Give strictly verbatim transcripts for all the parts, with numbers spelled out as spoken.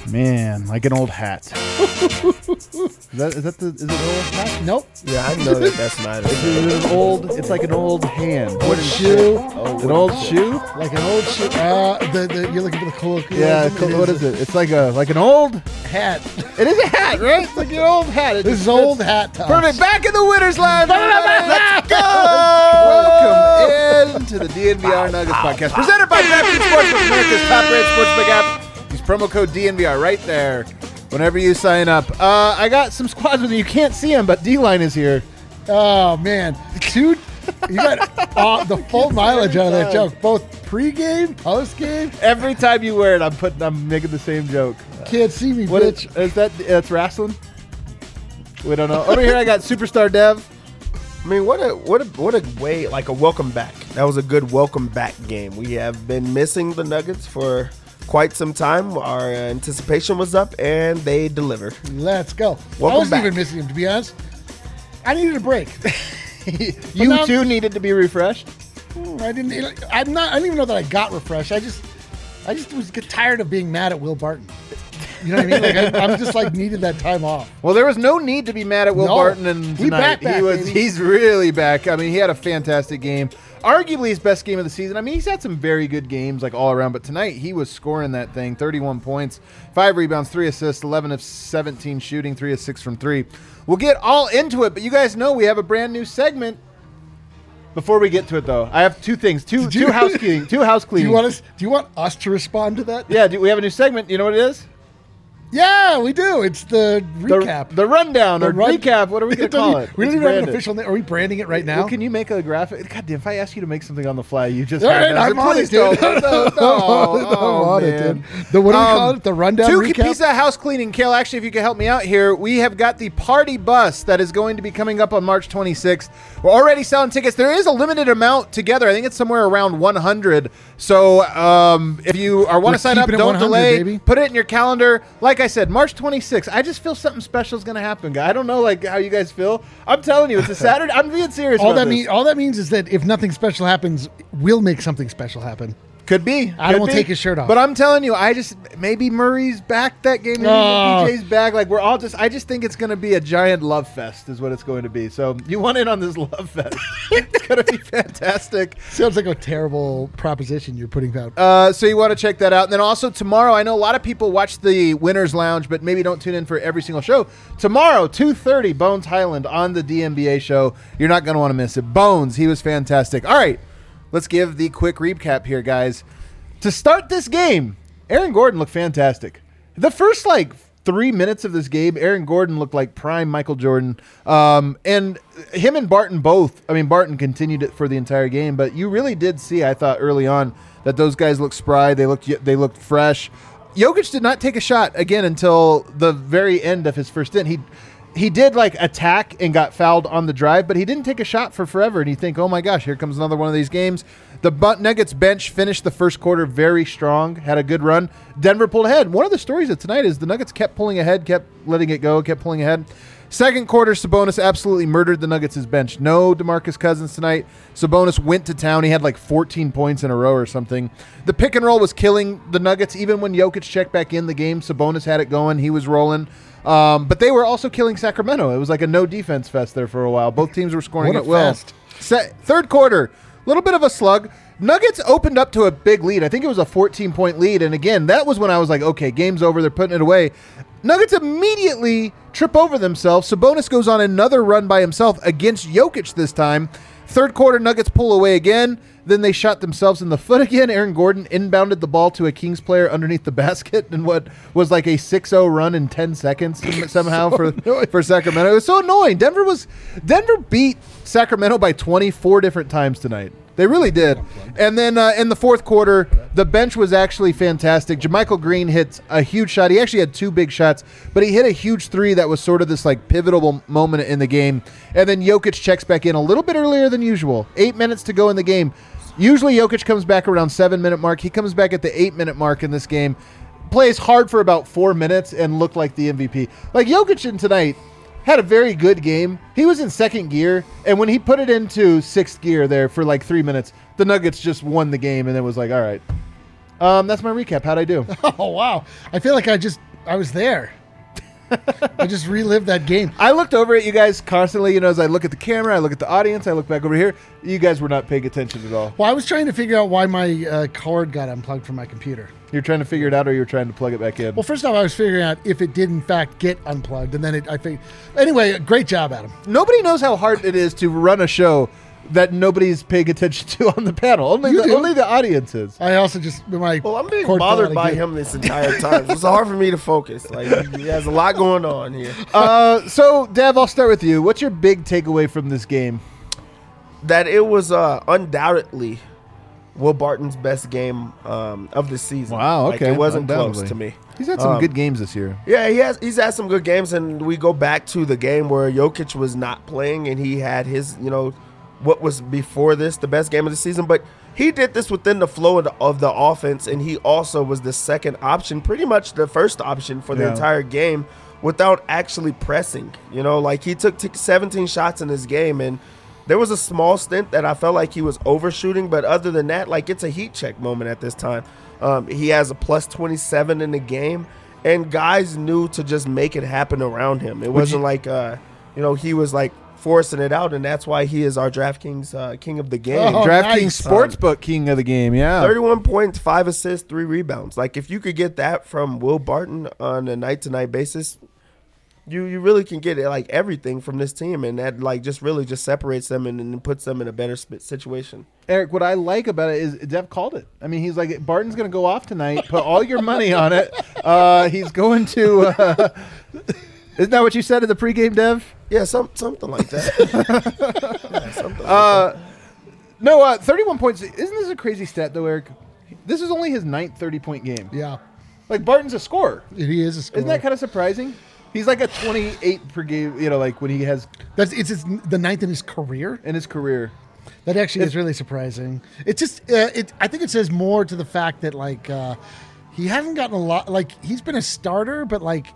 Man, like an old hat. is, that, is that the is it an old hat? Nope. Yeah, I know that that's not It's it. an old. It's like an old hand. Old shoe. Oh, an old shoe. Like an old shoe. Uh, the, the, you're looking for the colloquialism. Yeah. Co- what is it? It's like a like an old hat. It is a hat, right? It's like an old hat. It This is just old fits. hat time. Perfect. Back in the Winners Lounge. Let's go. Welcome into the D N V R Nuggets podcast, presented by DraftKings Sportsbook, America's top-rated sportsbook app. Use promo code D N V R right there whenever you sign up. Uh, I got some squads with me. You can't see them, but D-Line is here. Oh, man. Two. You got uh, the full mileage out of that joke. Both pre-game, post-game. Every time you wear it, I'm putting, I'm making the same joke. Can't see me, What bitch. is, is that? That's wrestling. We don't know. Over here, I got Superstar Dev. I mean, what a what a what a way, like a welcome back. That was a good welcome back game. We have been missing the Nuggets for quite some time. Our anticipation was up, and they delivered. Let's go. Welcome I wasn't back. even missing him, to be honest. I needed a break. You now- too needed to be refreshed. I didn't. I'm not. I don't even know that I got refreshed. I just, I just was get tired of being mad at Will Barton. You know what I mean? Like I, I'm just like needed that time off. Well, there was no need to be mad at Will No. Barton and We tonight. back, back, he was baby. he's really back. I mean, he had a fantastic game. Arguably his best game of the season. I mean, he's had some very good games like all around, but tonight he was scoring that thing. thirty-one points, five rebounds, three assists, eleven of seventeen shooting, three of six from three. We'll get all into it, but you guys know we have a brand new segment. Before we get to it, though, I have two things, two Did you- two housekeeping, two house Do cleaning. you want us? Do you want us to respond to that? Yeah, do we have a new segment? You know what it is? Yeah, we do. It's the The, recap. the rundown The or run- recap. What are we going It to call doesn't- it? We It's don't even have an branded. official name. Are we branding it right now? Well, can you make a graphic? God damn, if I ask you to make something on the fly, you just All have right, to- I'm on Please it, dude. don't. No, no, I'm on it, I'm oh, on it, man. dude. The- what do we call Um, it? The rundown Two recap? piece of house cleaning. Kale, actually, if you could help me out here, we have got the party bus that is going to be coming up on March twenty-sixth. We're already selling tickets. There is a limited amount together. I think it's somewhere around one hundred. So um, if you are want We're to sign up, keeping it don't one hundred, delay. baby. Put it in your calendar. Like I said, March twenty-sixth. I just feel something special is going to happen, guys. I don't know like how you guys feel. I'm telling you, it's a Saturday. I'm being serious all about that this. means all that means is that if nothing special happens, we'll make something special happen. Could be. Adam Could will be. take his shirt off. But I'm telling you, I just maybe Murray's back that game. Maybe Oh. P J's back. Like we're all just. I just think it's going to be a giant love fest, is what it's going to be. So you want in on this love fest? It's going to be fantastic. Sounds like a terrible proposition you're putting out. Uh, so you want to check that out. And then also tomorrow, I know a lot of people watch the Winners Lounge, but maybe don't tune in for every single show. Tomorrow, two thirty, Bones Highland on the D N B A show. You're not going to want to miss it. Bones, he was fantastic. All right, let's give the quick recap here, guys. To start this game, Aaron Gordon looked fantastic. The first, like, three minutes of this game, Aaron Gordon looked like prime Michael Jordan. Um, and him and Barton both, I mean, Barton continued it for the entire game, but you really did see, I thought, early on that those guys looked spry. They looked they looked fresh. Jokic did not take a shot, again, until the very end of his first stint. He He did, like, attack and got fouled on the drive, but he didn't take a shot for forever. And you think, oh, my gosh, here comes another one of these games. The Nuggets bench finished the first quarter very strong, had a good run. Denver pulled ahead. One of the stories of tonight is the Nuggets kept pulling ahead, kept letting it go, kept pulling ahead. Second quarter, Sabonis absolutely murdered the Nuggets' bench. No DeMarcus Cousins tonight. Sabonis went to town. He had like fourteen points in a row or something. The pick and roll was killing the Nuggets. Even when Jokic checked back in the game, Sabonis had it going. He was rolling. Um, but they were also killing Sacramento. It was like a no defense fest there for a while. Both teams were scoring What a at will. fest. Se- third quarter, a little bit of a slug. Nuggets opened up to a big lead. I think it was a fourteen-point lead. And again, that was when I was like, okay, game's over. They're putting it away. Nuggets immediately trip over themselves. Sabonis goes on another run by himself against Jokic this time. Third quarter, Nuggets pull away again. Then they shot themselves in the foot again. Aaron Gordon inbounded the ball to a Kings player underneath the basket in what was like a six oh run in ten seconds somehow So for, annoying. for Sacramento. It was so annoying. Denver was Denver beat Sacramento by twenty-four different times tonight. They really did. And then uh, in the fourth quarter, the bench was actually fantastic. JaMychal Green hit a huge shot. He actually had two big shots, but he hit a huge three that was sort of this like pivotal moment in the game. And then Jokic checks back in a little bit earlier than usual. Eight minutes to go in the game. Usually Jokic comes back around seven-minute mark. He comes back at the eight-minute mark in this game. Plays hard for about four minutes and looked like the M V P. Like Jokic in tonight had a very good game. He was in second gear, and when he put it into sixth gear there for like three minutes, the Nuggets just won the game, and it was like, all right. Um, that's my recap. How'd I do? Oh, wow. I feel like I just I was there. I just relived that game. I looked over at you guys constantly. You know, as I look at the camera, I look at the audience, I look back over here. You guys were not paying attention at all. Well, I was trying to figure out why my uh, cord got unplugged from my computer. You're trying to figure it out, or you're trying to plug it back in? Well, first off, I was figuring out if it did in fact get unplugged, and then it, I figured. Anyway, great job, Adam. Nobody knows how hard it is to run a show that nobody's paying attention to on the panel. Only You the, do. only the audience is. I also just my Well, I'm being cord fell out bothered of by gear. him this entire time. It's hard for me to focus. Like he has a lot going on here. Uh, so, Dev, I'll start with you. What's your big takeaway from this game? That it was uh, undoubtedly Will Barton's best game um, of the season. Wow, Like, okay, it wasn't close undoubtedly. to me. He's had some Um, good games this year. Yeah, he has. He's had some good games, and we go back to the game where Jokic was not playing, and he had his, you know, what was before this the best game of the season. But he did this within the flow of the, of the offense, and he also was the second option, pretty much the first option for the Yeah. entire game, without actually pressing. You know, like he took t- seventeen shots in this game, and there was a small stint that I felt like he was overshooting, but other than that, like it's a heat check moment at this time. Um, he has a plus twenty-seven in the game, and guys knew to just make it happen around him. It wasn't like, uh, you know, he was like forcing it out, and that's why he is our DraftKings uh, king of the game. Oh, DraftKings nice. Sportsbook king of the game, yeah. thirty-one points, five assists, three rebounds. Like if you could get that from Will Barton on a night-to-night basis, you you really can get it, like everything from this team, and that like just really just separates them and, and puts them in a better sp- situation. Eric, what I like about it is Dev called it. I mean, he's like, Barton's going to go off tonight. Put all your money on it. Uh, he's going to... Uh, isn't that what you said in the pregame, Dev? Yeah, some something like that. yeah, something like Uh, that. no, uh, thirty-one points. Isn't this a crazy stat, though, Eric? This is only his ninth thirty-point game. Yeah, Like, Barton's a scorer. he is a scorer. Isn't that kind of surprising? He's like a twenty-eight per game, you know, like when he has That's it's his, the ninth in his career. in his career. That actually is really surprising. It's just, uh, it. I think it says more to the fact that like uh, he hasn't gotten a lot. Like he's been a starter, but like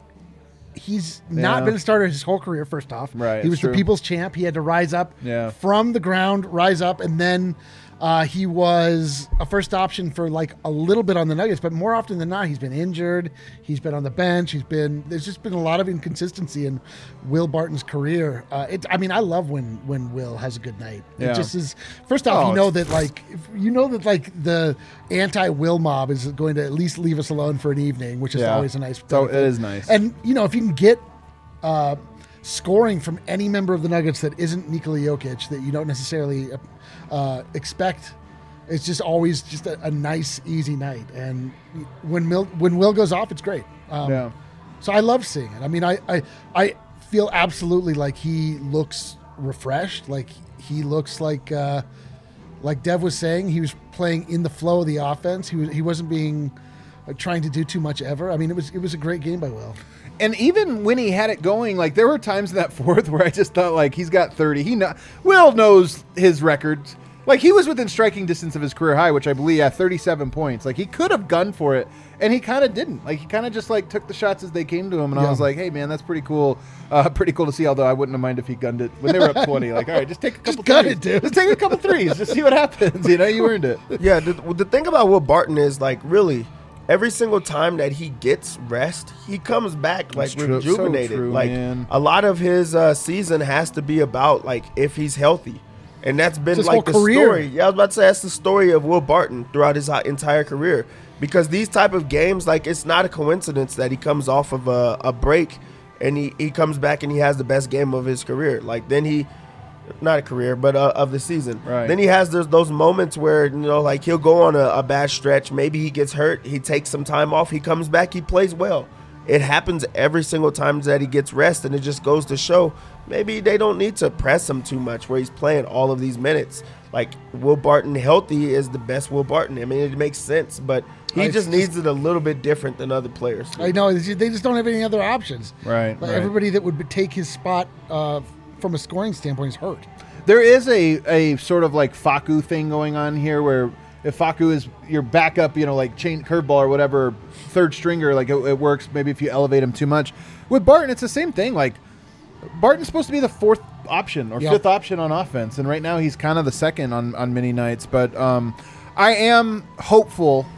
he's not Yeah. been a starter his whole career. First off, Right, He was it's the true. people's champ. He had to rise up Yeah. from the ground, rise up, and then uh, he was a first option for like a little bit on the Nuggets. But more often than not, he's been injured. He's been on the bench. He's been. There's just been a lot of inconsistency in Will Barton's career. Uh, it, I mean, I love when when Will has a good night. Yeah. It just is. First off, Oh, you know it's- that like if you know that like the anti-Will mob is going to at least leave us alone for an evening, which is Yeah. always a nice. So benefit. it is nice. And you know, if you can get uh, scoring from any member of the Nuggets that isn't Nikola Jokic, that you don't necessarily uh, expect, it's just always just a, a nice, easy night. And when Mil- when Will goes off, it's great. Um, Yeah. So I love seeing it. I mean, I, I I feel absolutely like he looks refreshed. Like he looks like uh, like Dev was saying, he was playing in the flow of the offense. He was he wasn't being uh, trying to do too much ever. I mean, it was it was a great game by Will. And even when he had it going, like there were times in that fourth where I just thought like he's got thirty. He know, Will knows his records. Like he was within striking distance of his career high, which I believe yeah, thirty-seven points. Like he could have gunned for it, and he kind of didn't. Like he kind of just like took the shots as they came to him, and Yeah. I was like, hey man, that's pretty cool. Uh, pretty cool to see. Although I wouldn't have minded if he gunned it when they were up twenty. Like all right, just take a couple gun threes. it, dude. Just take a couple threes. Just see what happens. You know, you earned it. Yeah, the, the thing about Will Barton is like really every single time that he gets rest, he comes back like That's true. So rejuvenated. true, like man. a lot of his uh, season has to be about like if he's healthy, and that's been It's his like the whole career. story. Yeah, I was about to say that's the story of Will Barton throughout his hi- entire career. Because these type of games, like it's not a coincidence that he comes off of a, a break and he, he comes back and he has the best game of his career. Like then he. Not a career, but uh, of the season. Right. Then he has those, those moments where, you know, like he'll go on a, a bad stretch. Maybe he gets hurt. He takes some time off. He comes back. He plays well. It happens every single time that he gets rest, and it just goes to show maybe they don't need to press him too much where he's playing all of these minutes. Like Will Barton healthy is the best Will Barton. I mean, it makes sense, but he It's just just- needs it a little bit different than other players. I know it's just- they just don't have any other options. Right, Like right. everybody that would take his spot uh, from a scoring standpoint is hurt. There is a, a sort of like Faku thing going on here where if Faku is your backup, you know, like chain curveball or whatever, third stringer, like it, it works maybe if you elevate him too much. With Barton, it's the same thing. Like Barton's supposed to be the fourth option or Yeah. fifth option on offense, and right now he's kind of the second on, on many nights. But um, I am hopeful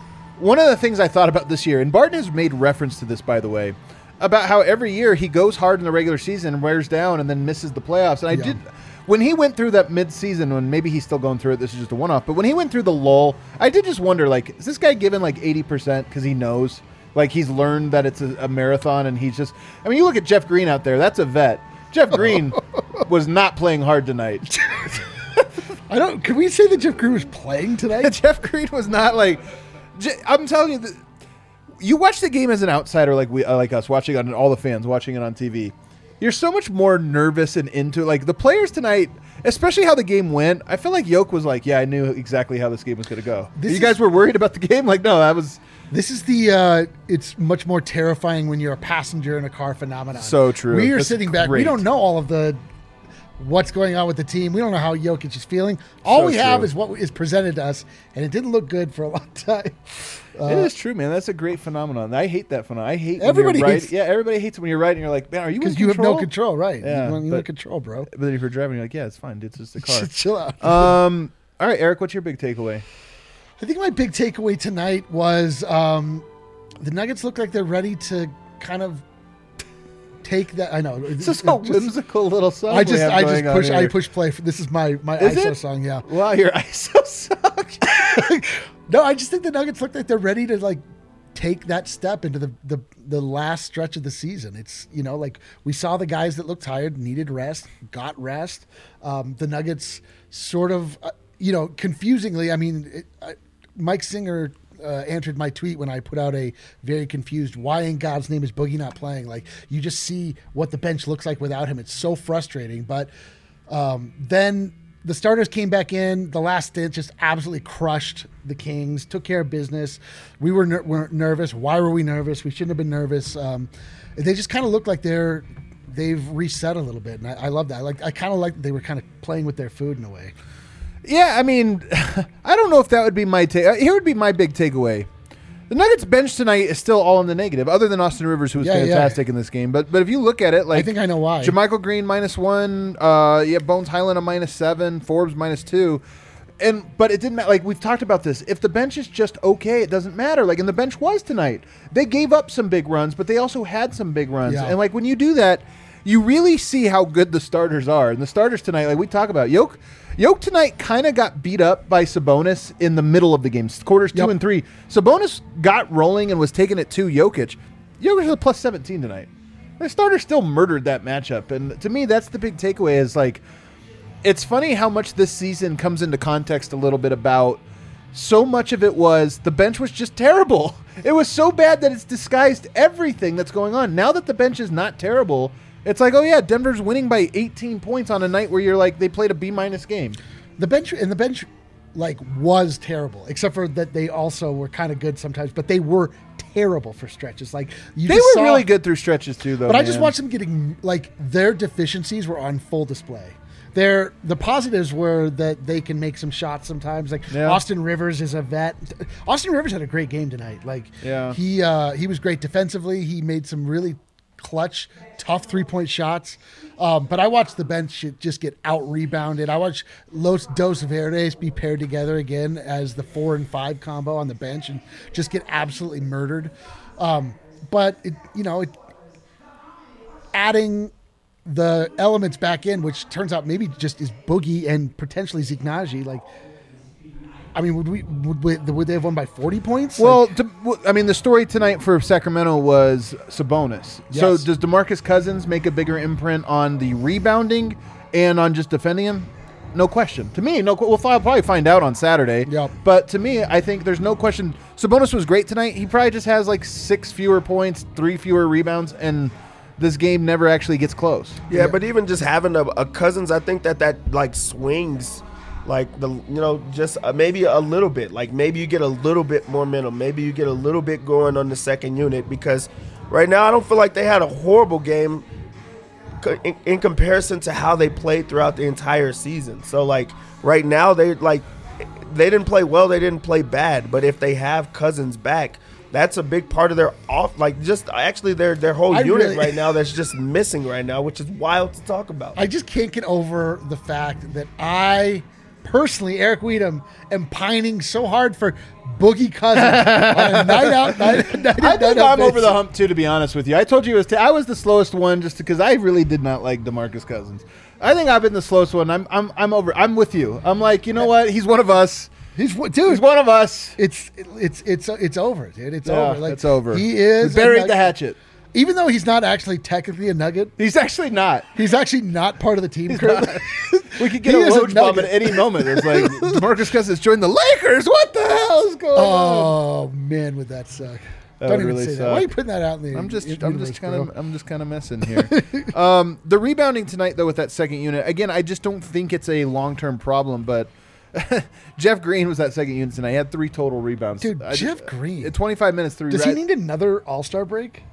one of the things I thought about this year, and Barton has made reference to this, by the way, about how every year he goes hard in the regular season, wears down, and then misses the playoffs. And I Yeah. did, when he went through that mid-season, when maybe he's still going through it, this is just a one-off, but when he went through the lull, I did just wonder, like, is this guy given like eighty percent because he knows? Like, he's learned that it's a, a marathon, and he's just, I mean, you look at Jeff Green out there, that's a vet. Jeff Green was not playing hard tonight. I don't. Can we say that Jeff Green was playing tonight? Jeff Green was not like, J- I'm telling you, the, you watch the game as an outsider, like we, uh, like us, watching on all the fans watching it on T V. You're so much more nervous and into like the players tonight, especially how the game went. I feel like Yoke was like, yeah, I knew exactly how this game was going to go. This you is- guys were worried about the game, like no, that was This is the. Uh, it's much more terrifying when you're a passenger in a car phenomenon. So true. We are That's sitting back. We great. don't know all of the what's going on with the team. We don't know how Jokic is feeling. All So we have true. is what is presented to us, and it didn't look good for a long time. Uh, it is true, man. That's a great phenomenon. I hate that phenomenon. I hate when Everybody you're right. hates- Yeah, everybody hates it when you're right and you're like, man, are you in because you have control? no control, right? Yeah, you, you but- have control, bro. But then if you're driving, you're like, yeah, it's fine. It's just a car. Chill out. um. All right, Eric, what's your big takeaway? I think my big takeaway tonight was um, the Nuggets look like they're ready to kind of take that. I know It's just a whimsical little song. I we just have I going just on push I here. push play. For, this is my my Is I S O it? song. Yeah. Wow, your I S O suck. No, I just think the Nuggets look like they're ready to like take that step into the, the the last stretch of the season. It's, you know, like we saw the guys that looked tired, needed rest, got rest. Um, the Nuggets sort of, uh, you know, confusingly, I mean, it, I, Mike Singer uh, answered my tweet when I put out a very confused, why in God's name is Boogie not playing? Like, you just see what the bench looks like without him. It's so frustrating. But um, then the starters came back in. The last stint just absolutely crushed the Kings, took care of business. We were, ner- were nervous. Why were we nervous? We shouldn't have been nervous. Um, they just kind of look like they're they've reset a little bit, and I, I love that. I like I kind of like that they were kind of playing with their food in a way. Yeah, I mean, I don't know if that would be my take. Here would be my big takeaway. The Nuggets bench tonight is still all in the negative, other than Austin Rivers, who was Yeah, yeah. fantastic in this game. But but if you look at it, like I think I know why. JaMychal Green minus one, uh, yeah, Bones Highland a minus seven, Forbes minus two, and but it didn't matter. Like we've talked about this, if the bench is just okay, it doesn't matter. Like and the bench was tonight. They gave up some big runs, but they also had some big runs. Yeah. And like when you do that, you really see how good the starters are. And the starters tonight, like we talk about, Yoke. Yoke tonight kind of got beat up by Sabonis in the middle of the game, quarters two Yep. and three. Sabonis got rolling and was taking it to Jokic. Jokic was a plus seventeen tonight. The starter still murdered that matchup. And to me, that's the big takeaway is like, it's funny how much this season comes into context a little bit about so much of it was the bench was just terrible. It was so bad that it's disguised everything that's going on. Now that the bench is not terrible, it's like, oh yeah, Denver's winning by eighteen points on a night where you're like, they played a B minus game. The bench and the bench like was terrible, except for that they also were kind of good sometimes, but they were terrible for stretches. Like you They just were saw- really good through stretches too, though. But I just man. watched them getting like their deficiencies were on full display. Their the positives were that they can make some shots sometimes. Like Yeah. Austin Rivers is a vet. Austin Rivers had a great game tonight. Like Yeah. he uh, he was great defensively. He made some really clutch, tough three point shots. Um, but I watched the bench just get out rebounded. I watched Los Dos Verdes be paired together again as the four and five combo on the bench and just get absolutely murdered. Um, but it, you know, it, adding the elements back in, which turns out maybe just is Boogie and potentially Zeke Naji. Like, I mean, would we would, we, would they have won by forty points? Well, Like, to, w- I mean, the story tonight for Sacramento was Sabonis. So Yes. does DeMarcus Cousins make a bigger imprint on the rebounding and on just defending him? No question. To me, no. We'll fi- probably find out on Saturday. Yep. But to me, I think there's no question. Sabonis was great tonight. He probably just has like six fewer points, three fewer rebounds, and this game never actually gets close. Yeah, but even just having a, a Cousins, I think that that like swings, like the you know just uh, maybe a little bit. Like maybe you get a little bit more momentum. Maybe you get a little bit going on the second unit because right now I don't feel like they had a horrible game co- in, in comparison to how they played throughout the entire season. So like right now they like they didn't play well. They didn't play bad. But if they have Cousins back, that's a big part of their off, like just actually their their whole I unit really- right now that's just missing right now, which is wild to talk about. I just can't get over the fact that I personally, Eric Weedham, am pining so hard for Boogie Cousins on a night out, night, night, I night think out I'm over basis. the hump too, to be honest with you. I told you it was t- I was the slowest one just because I really did not like DeMarcus Cousins. I think I've been the slowest one. I'm I'm I'm over. I'm with you. I'm like, you know what? He's one of us. He's what, dude. He's one of us. It's it's it's it's over, dude. It's Yeah, over. Like, it's over. He is We a buried Nug- the hatchet. Even though he's not actually technically a Nugget, He's actually not. he's actually not part of the team currently. We could get He a is a roach bomb at nugget. any moment. It's like DeMarcus Cousins joined the Lakers. What the hell is going on? Oh man, would that suck? That Don't would even really say suck. that. Why are you putting that out in the? I'm just, in- I'm universe, just kind of, bro? I'm just kind of messing here. um, the rebounding tonight, though, with that second unit, again, I just don't think it's a long-term problem. But Jeff Green was that second unit tonight. He had three total rebounds. Dude, I Jeff just- Green. at twenty-five minutes, three. Does he red- need another All Star break?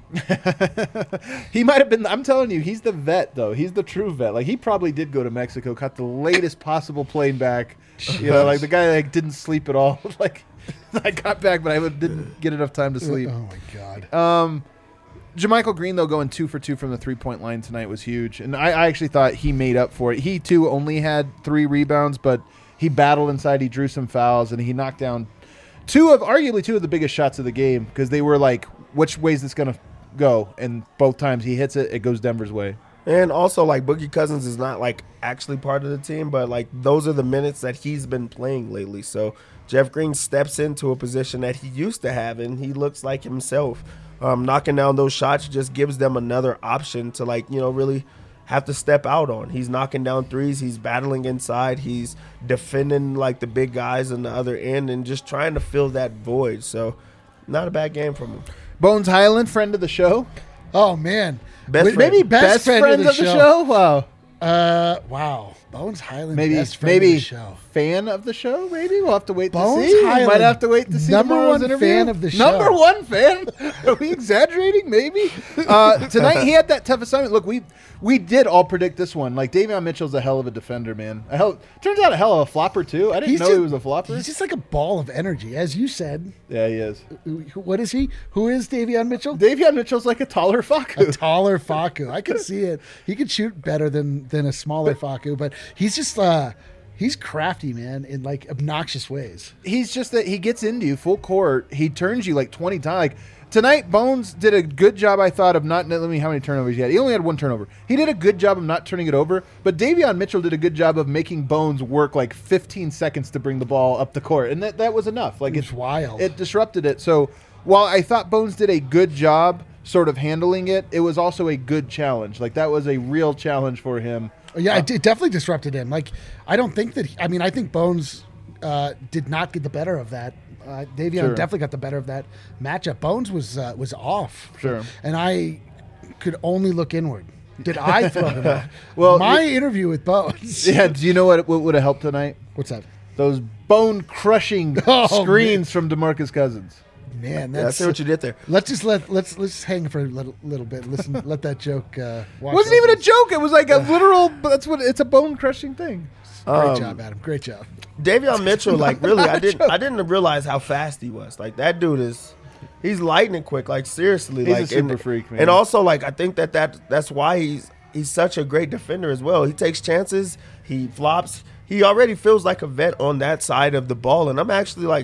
He might have been. I'm telling you, he's the vet, though. He's the true vet. Like he probably did go to Mexico, caught the latest possible plane back. You know, like the guy like didn't sleep at all. Like I got back, but I didn't get enough time to sleep. Oh my god. Um, Jermichael Green, though, going two for two from the three-point line tonight was huge. And I, I actually thought he made up for it. He, too, only had three rebounds, but he battled inside. He drew some fouls, and he knocked down two of, arguably two of the biggest shots of the game because they were like, which way is this going to go? And both times he hits it, it goes Denver's way. And also, like, Boogie Cousins is not, like, actually part of the team, but, like, those are the minutes that he's been playing lately. So Jeff Green steps into a position that he used to have, and he looks like himself. Um, knocking down those shots just gives them another option to, like, you know, really have to step out on. He's knocking down threes. He's battling inside. He's defending, like, the big guys on the other end and just trying to fill that void. So not a bad game from him. Bones Highland, friend of the show. Oh man. Best Wait, friend. Maybe best, friend, of the, show. Wow. Uh, wow. Bones Highland, Maybe best friend maybe of the show. fan of the show. Maybe we'll have to wait Bones to see. Highland, Might have to wait to see number tomorrow's one interview. fan of the Number show. one fan. Are we exaggerating? Maybe. Uh, tonight he had that tough assignment. Look, we we did all predict this one. Like Davion Mitchell's a hell of a defender, man. A hell turns out a hell of a flopper too. I didn't know just, he was a flopper. He's just like a ball of energy, as you said. Yeah, he is. What is he? Who is Davion Mitchell? Davion Mitchell's like a taller Faku. A taller Faku. I can see it. He could shoot better than than a smaller Faku, but he's just uh he's crafty, man, in like obnoxious ways. He's just that he gets into you full court. He turns you like twenty times. Like tonight, Bones did a good job, I thought, of not. Let me how many turnovers he had. He only had one turnover. He did a good job of not turning it over. But Davion Mitchell did a good job of making Bones work like fifteen seconds to bring the ball up the court, and that that was enough. Like It was it's wild. It disrupted it. So while I thought Bones did a good job sort of handling it, it was also a good challenge. Like that was a real challenge for him. Yeah, it, it definitely disrupted him. Like, I don't think that. He, I mean, I think Bones uh, did not get the better of that. Uh, Davion Sure. definitely got the better of that matchup. Bones was uh, was off. Sure. And I could only look inward. Did I throw him off? Well, my you- interview with Bones. Yeah. Do you know what what would have helped tonight? What's that? Those bone crushing Oh, screens from DeMarcus Cousins. Man, Yeah, I that's see what you did there. Let's just let let's let's hang for a little, little bit. Listen, let that joke. Uh, wash Wasn't over even a us. joke. It was like a literal. That's what it's a bone crushing thing. Great Um, job, Adam. Great job. Davion Mitchell, like really, I didn't, I didn't realize how fast he was. Like that dude is, he's lightning quick. Like seriously, He's a like super and, freak, man. And also, like I think that that that's why he's he's such a great defender as well. He takes chances. He flops. He already feels like a vet on that side of the ball, and I'm actually like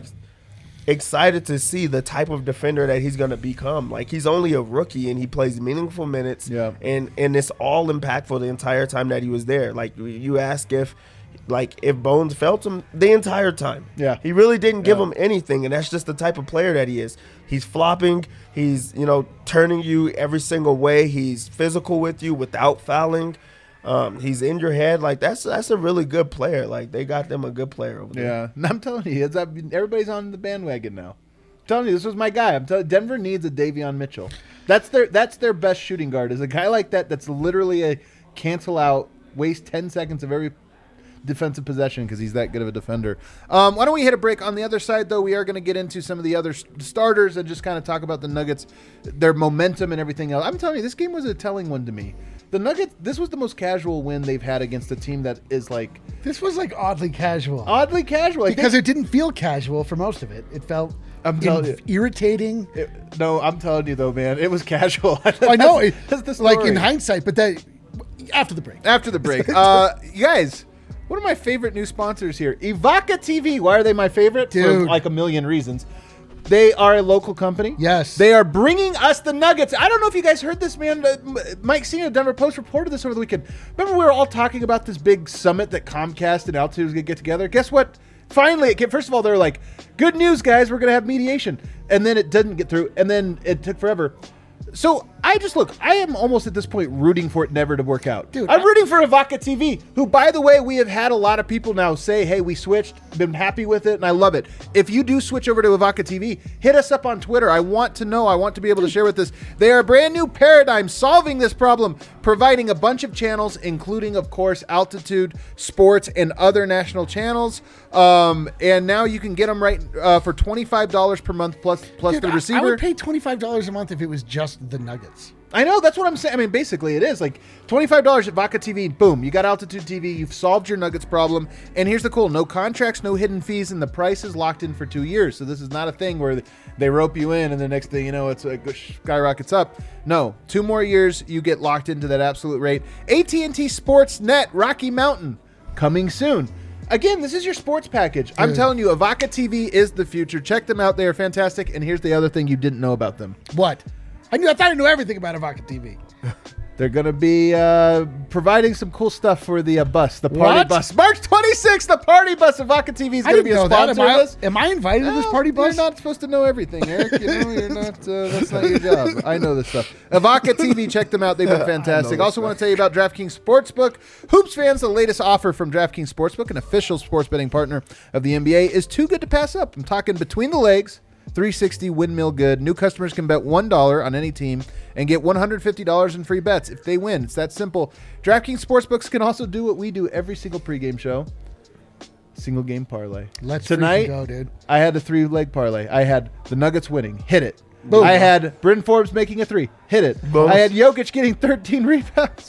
excited to see the type of defender that he's going to become. Like he's only a rookie and he plays meaningful minutes. Yeah. And and it's all impactful the entire time that he was there. Like you ask if like if Bones felt him the entire time. Yeah. He really didn't give Yeah. him anything, and that's just the type of player that he is. He's flopping, he's, you know, turning you every single way. He's physical with you without fouling. Um, he's in your head. Like that's that's a really good player. Like they got them a good player over there. Yeah, and I'm telling you, it's, everybody's on the bandwagon now. I'm telling you, this was my guy. I'm telling Denver needs a Davion Mitchell. That's their that's their best shooting guard. Is a guy like that. That's literally a cancel out, waste ten seconds of every defensive possession because he's that good of a defender. Um, why don't we hit a break? On the other side, though, we are going to get into some of the other s- starters and just kind of talk about the Nuggets, their momentum and everything else. I'm telling you, this game was a telling one to me. The Nuggets, this was the most casual win they've had against a team that is like This was like oddly casual. oddly casual. Like because they- it didn't feel casual for most of it. It felt I'm telling inf- you. irritating. It, no, I'm telling you though, man, it was casual. I know, it, That's the like story. in hindsight, but that after the break. After the break, uh, you guys, One of my favorite new sponsors here, Evoca T V. Why are they my favorite? For Dude. like a million reasons. They are a local company. Yes. They are bringing us the Nuggets. I don't know if you guys heard this, man. Uh, Mike Senior, Denver Post reported this over the weekend. Remember we were all talking about this big summit that Comcast and Altitude was going to get together? Guess what? Finally, it came, first of all, they were like, good news, guys. We're going to have mediation. And then it didn't get through. And then it took forever. So I just look, I am almost at this point rooting for it never to work out. Dude, I'm I- rooting for Evoca T V, who, by the way, we have had a lot of people now say, hey, we switched, been happy with it, and I love it. If you do switch over to Evoca T V, hit us up on Twitter. I want to know. I want to be able to share with this. They are a brand new paradigm solving this problem, providing a bunch of channels, including, of course, Altitude, Sports, and other national channels. Um, and now you can get them right uh, for twenty-five dollars per month plus plus Dude, the I- receiver. I would pay twenty-five dollars a month if it was just the Nuggets. I know, that's what I'm saying. I mean, basically, it is like twenty-five dollars at Vodka T V. Boom, you got Altitude T V. You've solved your Nuggets problem. And here's the cool: no contracts, no hidden fees, and the price is locked in for two years. So this is not a thing where they rope you in and the next thing you know, it's like skyrockets up. No, two more years, you get locked into that absolute rate. A T and T Sports Net, Rocky Mountain, coming soon. Again, this is your sports package. I'm Dude. telling you, Evoca T V is the future. Check them out; they are fantastic. And here's the other thing you didn't know about them. What? I knew. I thought I knew everything about Evoca T V. They're going to be uh, providing some cool stuff for the uh, bus, the party What? bus. March twenty-sixth, the party bus. Evoca T V is I going to didn't be a know that. sponsor Am of I, this. am I invited to this Well, party bus? You're not supposed to know everything, Eric. You know, you're not. Uh, that's not your job. I know this stuff. Evoca T V, check them out. They've been fantastic. Also, want to tell you about DraftKings Sportsbook. Hoops fans, the latest offer from DraftKings Sportsbook, an official sports betting partner of the N B A, is too good to pass up. I'm talking between the legs. three sixty windmill good. New customers can bet one dollar on any team and get one hundred fifty dollars in free bets if they win. It's that simple. DraftKings Sportsbooks can also do what we do every single pregame show. Single game parlay. Let's Tonight, freaking go, dude. I had a three-leg parlay. I had the Nuggets winning. Hit it. Boom. I had Bryn Forbes making a three. Hit it. Boom. I had Jokic getting thirteen rebounds.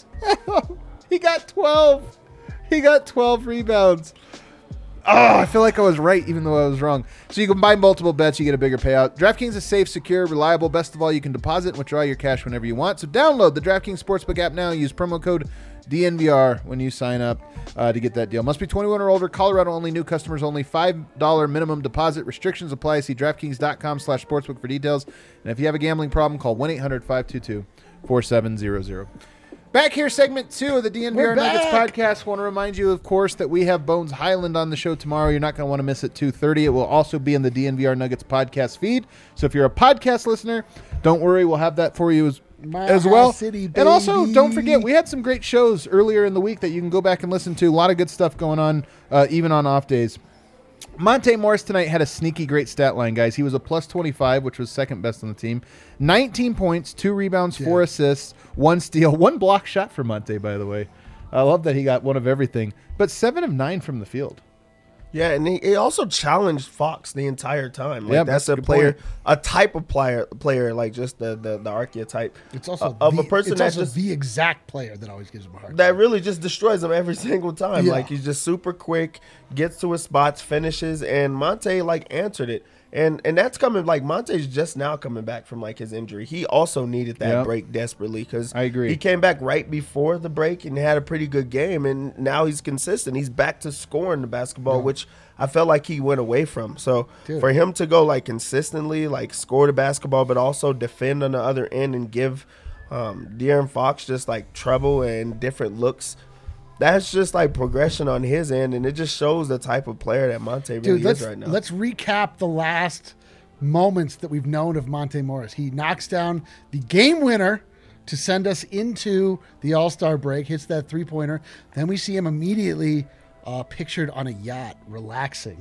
He got twelve. He got twelve rebounds. Oh, I feel like I was right, even though I was wrong. So you combine multiple bets, you get a bigger payout. DraftKings is safe, secure, reliable. Best of all, you can deposit and withdraw your cash whenever you want. So download the DraftKings Sportsbook app now. Use promo code D N V R when you sign up uh, to get that deal. Must be twenty-one or older. Colorado only. New customers only. five dollars minimum deposit. Restrictions apply. See DraftKings.com slash sportsbook for details. And if you have a gambling problem, call one eight hundred five two two four seven zero zero. Back here, segment two of the D N V R We're Nuggets back. podcast. Want to remind you, of course, that we have Bones Highland on the show tomorrow. You're not going to want to miss it. two thirty. It will also be in the D N V R Nuggets podcast feed. So if you're a podcast listener, don't worry. We'll have that for you as, My as well. City, and also, baby. don't forget, we had some great shows earlier in the week that you can go back and listen to. A lot of good stuff going on, uh, even on off days. Monte Morris tonight had a sneaky great stat line, guys. He was a plus twenty-five, which was second best on the team. nineteen points, two rebounds, four Yeah. assists, one steal, one block shot for Monte, by the way. I love that he got one of everything. But seven of nine from the field. Yeah, and he, he also challenged Fox the entire time. Like Yeah, that's that's a a good player, point. a type of player, player like just the the, the archetype. It's also of the, a person it's that also just the exact player that always gives him a hard that time. really just destroys him every single time. Yeah. Like he's just super quick, gets to his spots, finishes, and Monte like answered it. And and that's coming like Monte's just now coming back from like his injury. He also needed that Yep. break desperately because I agree. he came back right before the break and had a pretty good game, and now he's consistent. He's back to scoring the basketball, Yeah. which I felt like he went away from. So Dude. for him to go like consistently, like score the basketball, but also defend on the other end and give um, De'Aaron Fox just like trouble and different looks. That's just like progression on his end, and it just shows the type of player that Monte really Dude, let's is right now. let's recap the last moments that we've known of Monte Morris. He knocks down the game winner to send us into the All-Star break, hits that three-pointer. Then we see him immediately uh, pictured on a yacht, relaxing,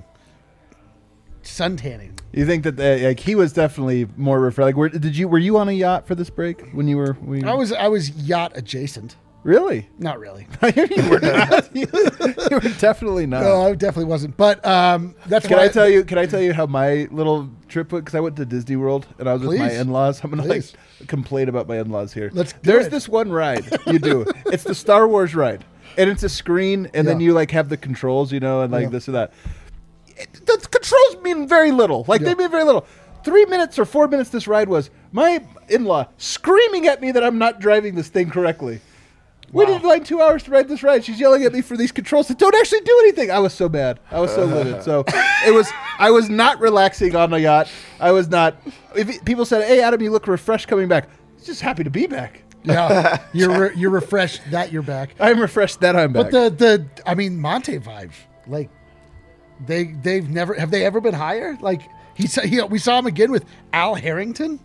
suntanning. You think that uh, like he was definitely more refreshed? Like, were, did you were you on a yacht for this break when you were? When you, I was I was yacht adjacent. really. Not really. you were not. You, you were definitely not. No, I definitely wasn't. But um, that's Can why I tell you? Can I tell you how my little trip went? Because I went to Disney World and I was with my Please. in-laws. I'm gonna Please. like complain about my in-laws here. Let's do There's it. this one ride you do. It's the Star Wars ride, and it's a screen, and then Yeah. you like have the controls, you know, and like Yeah. this or that. It, the controls mean very little. Like Yeah. they mean very little. Three minutes or four minutes this ride was. My in-law screaming at me that I'm not driving this thing correctly. We Wow. did like two hours to ride this ride. She's yelling at me for these controls that don't actually do anything. I was so mad. I was so livid. So it was. I was not relaxing on the yacht. I was not. If it- people said, "Hey, Adam, you look refreshed coming back," I was just happy to be back. Yeah, you're re- you're refreshed that you're back. I'm refreshed that I'm back. But the the I mean Monte vibes, like they they've never have they ever been higher? Like he saw he, we saw him again with Al Harrington.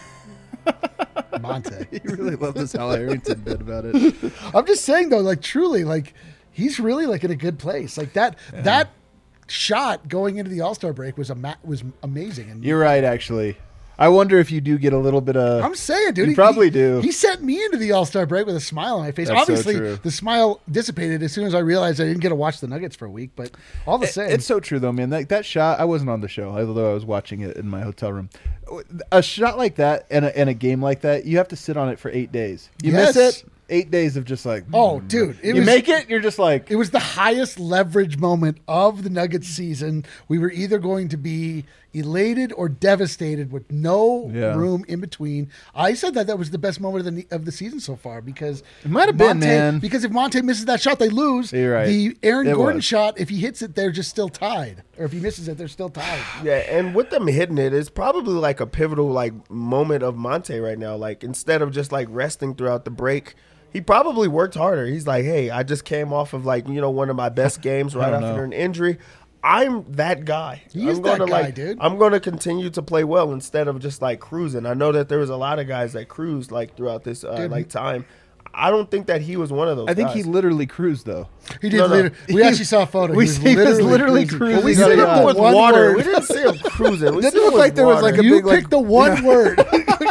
Monte. you really love this Al Harrington bit about it. I'm just saying though, like truly, like he's really like in a good place. Like that that shot going into the All-Star break was a ma- was amazing. And You're right, actually. I wonder if you do get a little bit of. I'm saying, dude, You he, probably he- do. He sent me into the All-Star break with a smile on my face. That's so Obviously, true. the smile dissipated as soon as I realized I didn't get to watch the Nuggets for a week. But all the It- same, It's so true, though, man. That, that shot, I wasn't on the show, although I was watching it in my hotel room. A shot like that and a, and a game like that, you have to sit on it for eight days. You Yes. miss it, eight days of just like. Oh, mm. dude, it you was- make it, you're just like. it was the highest leverage moment of the Nuggets season. We were either going to be elated or devastated with no Yeah. room in between. I said that that was the best moment of the of the season so far because It might have been, Monte- man. Because if Monte misses that shot, they lose. You're right. The Aaron It Gordon was. shot, if he hits it, they're just still tied. Or if he misses it, they're still tied. Yeah, and with them hitting it, it's probably like a pivotal like moment of Monte right now. Like instead of just like resting throughout the break, he probably worked harder. He's like, hey, I just came off of like you know one of my best games right don't after know. an injury. I'm that guy. He I'm is that gonna, guy, like, dude. I'm going to continue to play well instead of just like cruising. I know that there was a lot of guys that cruised like throughout this uh, Dude. like time. I don't think that he was one of those. I think guys. he literally cruised, though. He did. No, no. later- We actually saw a photo. We he was see- he was literally, literally cruising. cruising. Well, we He's see got him a- with one water. word. We didn't see him cruising. We Didn't see him look with like there was, like, water. a You big, like- picked the one word.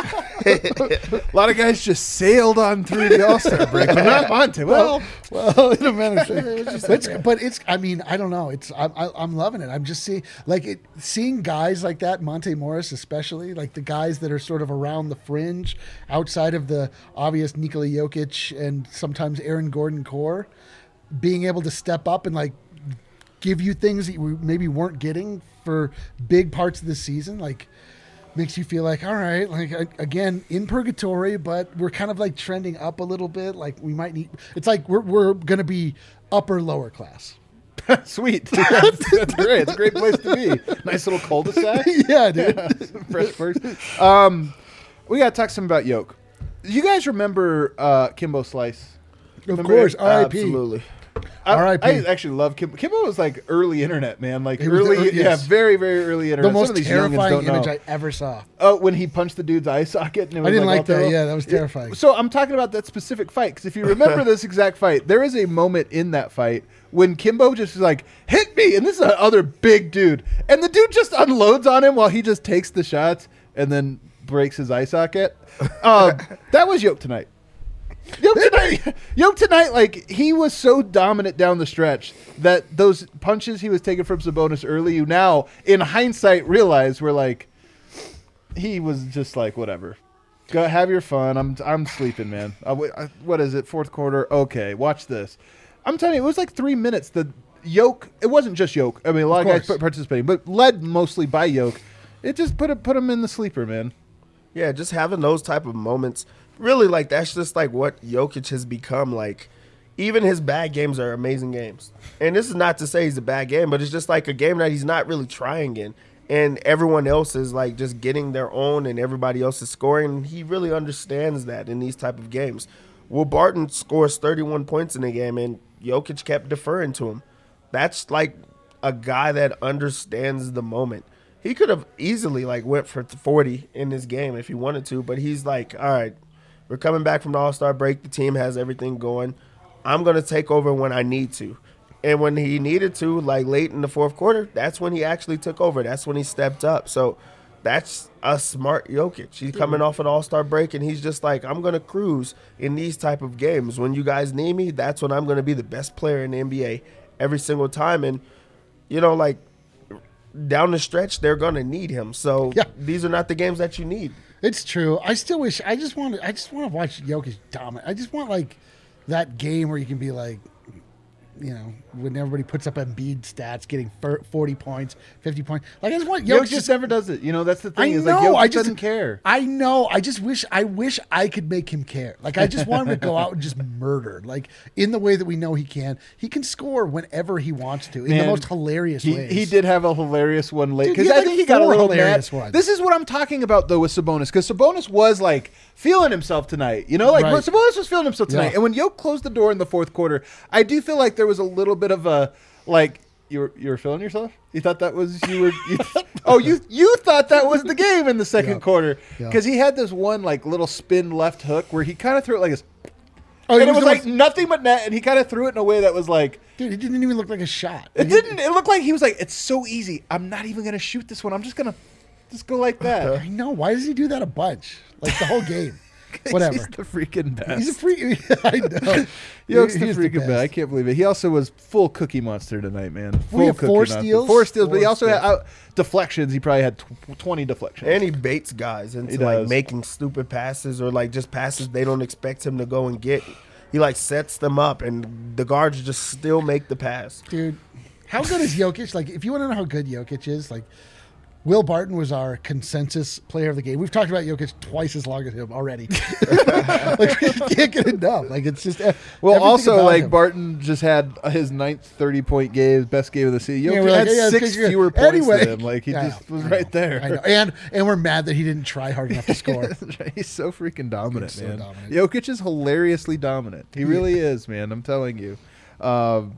A lot of guys just sailed on through the All Star break, but not Monte. Well, Well, in a manner, but it's, but it's. I mean, I don't know. It's. I'm. I- I'm loving it. I'm just seeing like it. Seeing guys like that, Monte Morris especially, like the guys that are sort of around the fringe, outside of the obvious Nikola Jokic and sometimes Aaron Gordon core, being able to step up and like give you things that you maybe weren't getting for big parts of the season, like. Makes you feel like, all right, like a- again in purgatory, but we're kind of like trending up a little bit. Like we might need. It's like we're we're gonna be upper lower class. sweet. That's, that's great. It's a great place to be. Nice little cul-de-sac. Yeah, dude. Fresh perks. Um, we got to talk some about Yoke. You guys remember uh, Kimbo Slice? Of Remember course, it? R I P. Absolutely. I, R I P. I actually love Kimbo. Kimbo was like early internet, man. Like He was the early, ear- yeah, yes. very, very early internet. The Some most of these youngins terrifying don't know. image I ever saw. Oh, when he punched the dude's eye socket. And it was I didn't like all that. terrible. Yeah, that was terrifying. So I'm talking about that specific fight because if you remember this exact fight, there is a moment in that fight when Kimbo just is like, hit me, and this is another big dude, and the dude just unloads on him while he just takes the shots and then breaks his eye socket. Uh, that was Yoke tonight. Yoke tonight, Yoke tonight, like he was so dominant down the stretch that those punches he was taking from Sabonis early, you now in hindsight realize were like he was just like whatever. Go have your fun. I'm I'm sleeping, man. I, I, what is it? Fourth quarter. Okay, watch this. I'm telling you, it was like three minutes. The Yoke. It wasn't just Yoke. I mean, a lot of, Of guys course. participating, but led mostly by Yoke. It just put it put him in the sleeper, man. Yeah, just having those type of moments. Really, like, that's just, like, what Jokic has become. Like, even his bad games are amazing games. And this is not to say he's a bad game, but it's just, like, a game that he's not really trying in. And everyone else is, like, just getting their own and everybody else is scoring. And he really understands that in these type of games. Will Barton scores thirty-one points in a game, and Jokic kept deferring to him. That's, like, a guy that understands the moment. He could have easily, like, went for forty in this game if he wanted to, but he's like, all right, we're coming back from the All-Star break. The team has everything going. I'm going to take over when I need to. And when he needed to, like late in the fourth quarter, that's when he actually took over. That's when he stepped up. So that's a smart Jokic. He's coming off an All-Star break, and he's just like, I'm going to cruise in these type of games. When you guys need me, that's when I'm going to be the best player in the N B A every single time. And, you know, like, down the stretch, they're going to need him. So Yeah. these are not the games that you need. It's true. I still wish. I just want. to I just want to watch Jokic dominate. I just want like that game where you can be like, you know, when everybody puts up Embiid stats, getting forty points, fifty points. Like I just want Jokic Jokic just never does it. You know, that's the I thing. Is know. like Jokic I just doesn't care. I know. I just wish. I wish I could make him care. Like I just want him to go out and just murder. Like in the way that we know he can. He can score whenever he wants to in Man, the most hilarious he, ways. He did have a hilarious one late Dude, he because had I like think he got a four little hilarious mad. ones. This is what I'm talking about though with Sabonis, because Sabonis was like feeling himself tonight. You know, like Right. Sabonis was feeling himself tonight. Yeah. And when Yoke closed the door in the fourth quarter, I do feel like there was a little bit of a like. You were you were feeling yourself? You thought that was you were? You, oh, you you thought that was the game in the second Yeah. quarter Yeah. because he had this one like little spin left hook where he kind of threw it like this, Oh, he and it was the like most- nothing but net, and he kind of threw it in a way that was like. dude, it didn't even look like a shot. It Like, didn't. It looked like he was like, it's so easy. I'm not even gonna shoot this one. I'm just gonna just go like that. I know. Why does he do that a bunch? Like the whole game. Whatever. He's the freaking best. He's a freak. I know. Yoke's He- the he's freaking best. best. I can't believe it. He also was full cookie monster tonight, man. Full had cookie four monster. steals? Four steals, but he Four also had steals. out deflections. He probably had tw- twenty deflections. And he baits guys into He like does. making stupid passes or like just passes they don't expect him to go and get. He like sets them up, and the guards just still make the pass. Dude, how good is Jokic? Like, if you want to know how good Jokic is, like, Will Barton was our consensus player of the game. We've talked about Jokic twice as long as him already. Like, we can't get enough. Like, it's just. uh, well, everything also about like him. Barton just had his ninth thirty-point game, best game of the season. Yeah, Jokic we're like, had yeah, six 'cause you're- fewer points anyway. than him. Like he Yeah, just was I right know, there. I know. And and we're mad that he didn't try hard enough to score. He's so freaking dominant, He's so man. dominant. Jokic is hilariously dominant. He really is, man. I'm telling you. Um,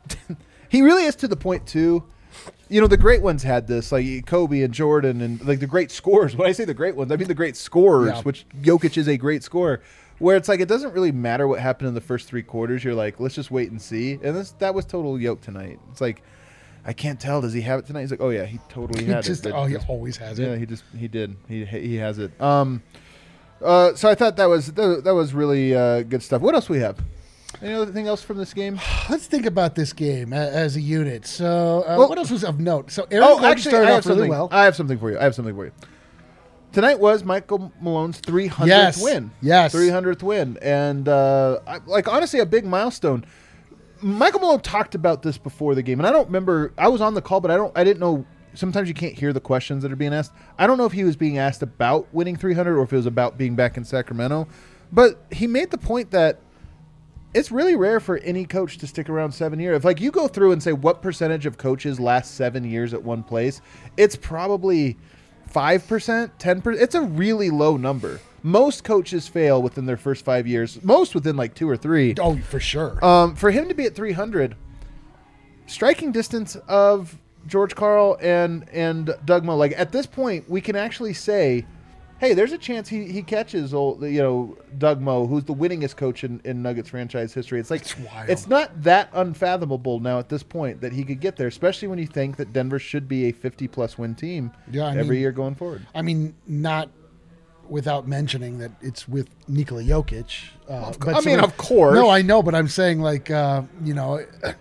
he really is to the point too. You know, the great ones had this, like Kobe and Jordan, and like the great scorers. When I say the great ones, I mean the great scorers, Yeah. which Jokic is a great scorer. Where it's like it doesn't really matter what happened in the first three quarters. You're like, let's just wait and see. And this that was total Yoke tonight. It's like, I can't tell. Does he have it tonight? He's like, oh yeah, he totally He had just, it. but oh, he just- always has yeah, it. he just he did. He he has it. Um, uh, so I thought that was that, that was really uh, good stuff. What else we have? Any other thing else from this game? Let's think about this game a- as a unit. So, uh, Well- what else was of note? So, Aaron Oh, Gordon actually, I started have off really something. well. I have something for you. I have something for you. Tonight was Michael Malone's three hundredth Yes. win. Yes. three hundredth win, and uh, I, like honestly, a big milestone. Michael Malone talked about this before the game, and I don't remember. I was on the call, but I don't. I didn't know. Sometimes you can't hear the questions that are being asked. I don't know if he was being asked about winning three hundred or if it was about being back in Sacramento. But he made the point that it's really rare for any coach to stick around seven years. If like you go through and say what percentage of coaches last seven years at one place, it's probably five percent, ten percent. It's a really low number. Most coaches fail within their first five years. Most within like two or three. Oh, for sure. Um, for him to be at three hundred, striking distance of George Karl and and Doug Moe. Like at this point, we can actually say, hey, there's a chance he, he catches old, you know, Doug Moe, who's the winningest coach in, in Nuggets franchise history. It's like It's wild. it's not that unfathomable now at this point that he could get there, especially when you think that Denver should be a fifty plus win team Yeah, I every mean- year going forward. I mean, not without mentioning that it's with Nikola Jokic. Uh, but I mean, so- of course. No, I know, but I'm saying like, uh, you know,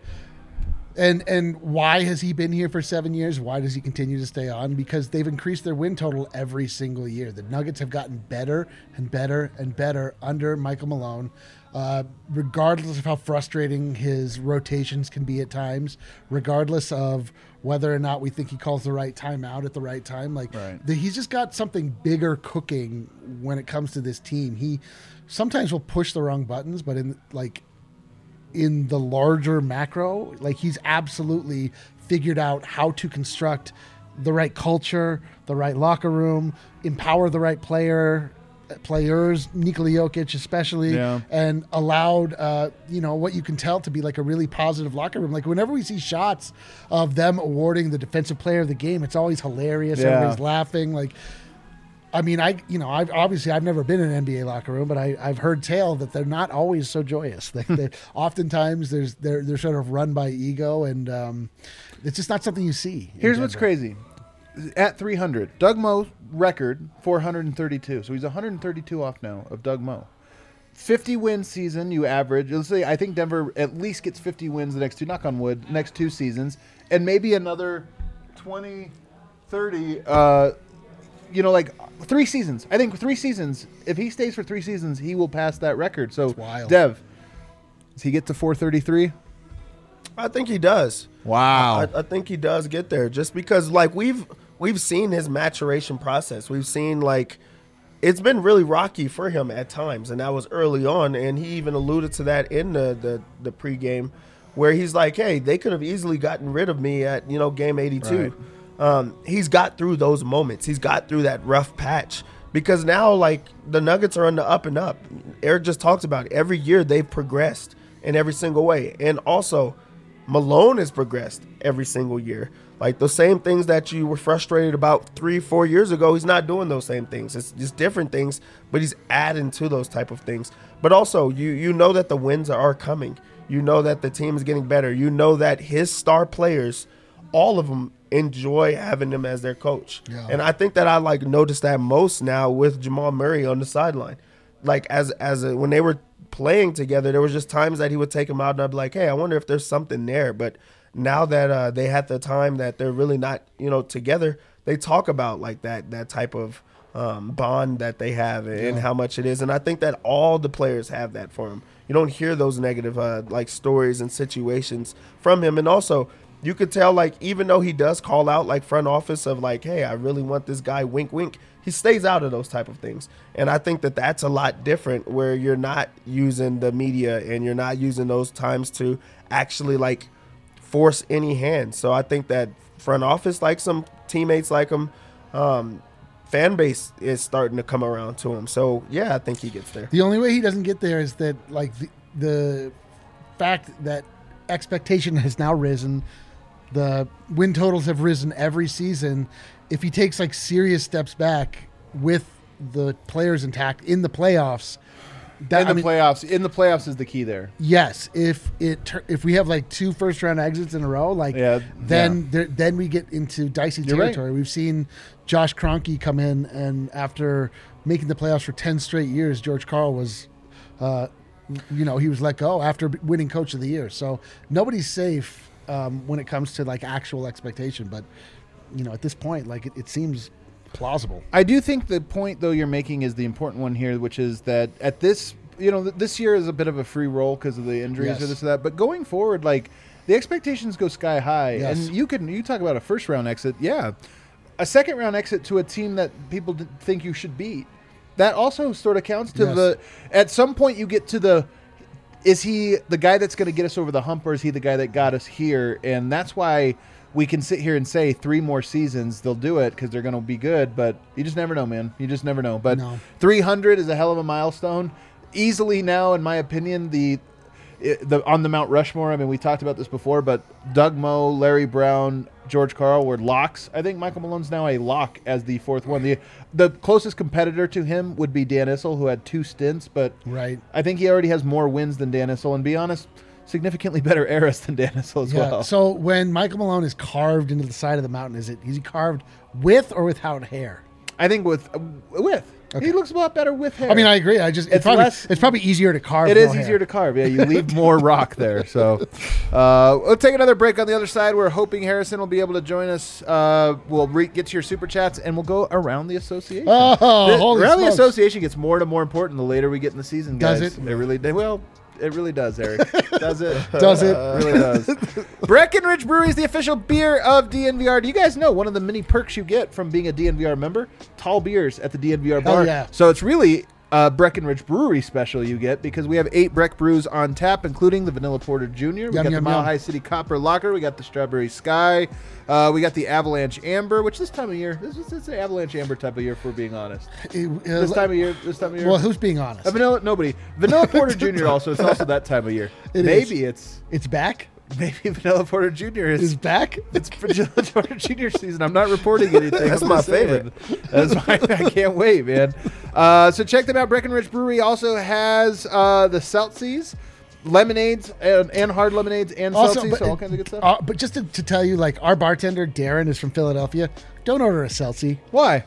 and and why has he been here for seven years? Why does he continue to stay on? Because they've increased their win total every single year. The Nuggets have gotten better and better and better under Michael Malone. Uh, regardless of how frustrating his rotations can be at times, regardless of whether or not we think he calls the right timeout at the right time, like Right. the, he's just got something bigger cooking when it comes to this team. He sometimes will push the wrong buttons, but in like in the larger macro, like he's absolutely figured out how to construct the right culture, the right locker room, empower the right player, players, Nikola Jokic especially, Yeah. and allowed, uh, you know, what you can tell to be like a really positive locker room. Like whenever we see shots of them awarding the defensive player of the game, it's always hilarious. Yeah. Everybody's laughing. Like, I mean, I you know, I've obviously I've never been in an N B A locker room, but I, I've heard tale that they're not always so joyous. They, they, oftentimes, there's they're they're sort of run by ego, and um, it's just not something you see. in Here's what's Denver. crazy. At three hundred, Doug Moe's record, four hundred thirty-two. So he's one hundred thirty-two off now of Doug Moe. fifty win season, you average. Let's say I think Denver at least gets fifty wins the next two, knock on wood, next two seasons. And maybe another twenty, thirty, uh, you know, like three seasons. I think three seasons. If he stays for three seasons, he will pass that record. So, wild. Dev, does he get to four thirty-three? I think he does. Wow. I, I think he does get there just because like we've we've seen his maturation process. We've seen like it's been really rocky for him at times, and that was early on. And he even alluded to that in the the, the pregame where he's like, hey, they could have easily gotten rid of me at, you know, game eighty-two. Right. Um, he's got through those moments. He's got through that rough patch because now like the Nuggets are on the up and up. Eric just talked about it. Every year they've progressed in every single way. And also Malone has progressed every single year. Like the same things that you were frustrated about three, four years ago, he's not doing those same things. It's just different things, but he's adding to those type of things. But also, you you know that the wins are coming. You know that the team is getting better. You know that his star players, all of them, enjoy having him as their coach. Yeah. And I think that I like noticed that most now with Jamal Murray on the sideline. Like as as a, when they were playing together, there was just times that he would take him out and I'd be like, hey, I wonder if there's something there. But now that uh, they had the time that they're really not, you know, together, they talk about like that that type of um, bond that they have and yeah. how much it is. And I think that all the players have that for him. You don't hear those negative uh, like stories and situations from him. And also you could tell like even though he does call out like front office of like, hey, I really want this guy, wink, wink. He stays out of those type of things. And I think that that's a lot different where you're not using the media and you're not using those times to actually like force any hand. So I think that front office likes him, teammates like him, um, fan base is starting to come around to him. So, yeah, I think he gets there. The only way he doesn't get there is that like the, the fact that expectation has now risen, the win totals have risen every season. If he takes like serious steps back with the players intact in the playoffs, that, in the I mean, playoffs, in the playoffs is the key there. Yes, if it if we have like two first round exits in a row, like yeah, then yeah. There, then we get into dicey You're territory. Right. We've seen Josh Kroenke come in, and after making the playoffs for ten straight years, George Karl was, uh, you know, he was let go after winning Coach of the Year. So nobody's safe um, when it comes to like actual expectation, but. You know, at this point, like it, it seems plausible. I do think the point, though, you're making is the important one here, which is that at this, you know, th- this year is a bit of a free roll because of the injuries yes. or this or that. But going forward, like the expectations go sky high, yes. and you can you talk about a first round exit, yeah, a second round exit to a team that people d- think you should beat. That also sort of counts to yes. the. At some point, you get to the. Is he the guy that's going to get us over the hump, or is he the guy that got us here? And that's why. We can sit here and say three more seasons they'll do it because they're going to be good, but you just never know, man. You just never know. But no. three hundred is a hell of a milestone. Easily now, in my opinion, the the on the Mount Rushmore. I mean, we talked about this before, but Doug Moe, Larry Brown, George Karl were locks. I think Michael Malone's now a lock as the fourth one. The the closest competitor to him would be Dan Issel, who had two stints, but right. I think he already has more wins than Dan Issel. And be honest. Significantly better eras than Dan Issel as yeah. well. So when Michael Malone is carved into the side of the mountain, is it is he carved with or without hair? I think with uh, with. Okay. He looks a lot better with hair. I mean, I agree. I just it's, it's probably less, it's probably easier to carve. It is no easier hair. to carve. Yeah, you leave more rock there. So uh, we'll take another break on the other side. We're hoping Harrison will be able to join us. Uh, we'll re- get to your super chats and we'll go around the association. Oh, the, holy around smokes. the association gets more and more important the later we get in the season, guys. Does it? It really well. It really does, Eric. Does it? Does it? It really does. Breckenridge Brewery is the official beer of D N V R. Do you guys know one of the many perks you get from being a D N V R member? Tall beers at the D N V R bar. Oh, yeah. So it's really a Breckenridge Brewery special you get because we have eight Breck brews on tap, including the Vanilla Porter Junior We yum, got yum, the Mile yum. High City Copper Locker. We got the Strawberry Sky. Uh, we got the Avalanche Amber, which this time of year, this is it's an Avalanche Amber type of year, if we're being honest. It, uh, this time of year, this time of year. Well, who's being honest? Uh, vanilla, nobody. Vanilla Porter Junior also, it's also that time of year. It Maybe is. it's it's back. Maybe Vanilla Porter Junior is, is back. It's Vanilla Porter Junior season. I'm not reporting anything. That's I'm my just saying. favorite. That's my. I can't wait, man. Uh, so check them out. Breckenridge Brewery also has uh, the Seltzies, lemonades, and, and hard lemonades, and Also, Seltzies. but So all it- kinds of good stuff. Uh, but just to, to tell you, like our bartender Darren is from Philadelphia. Don't order a seltzy. Why?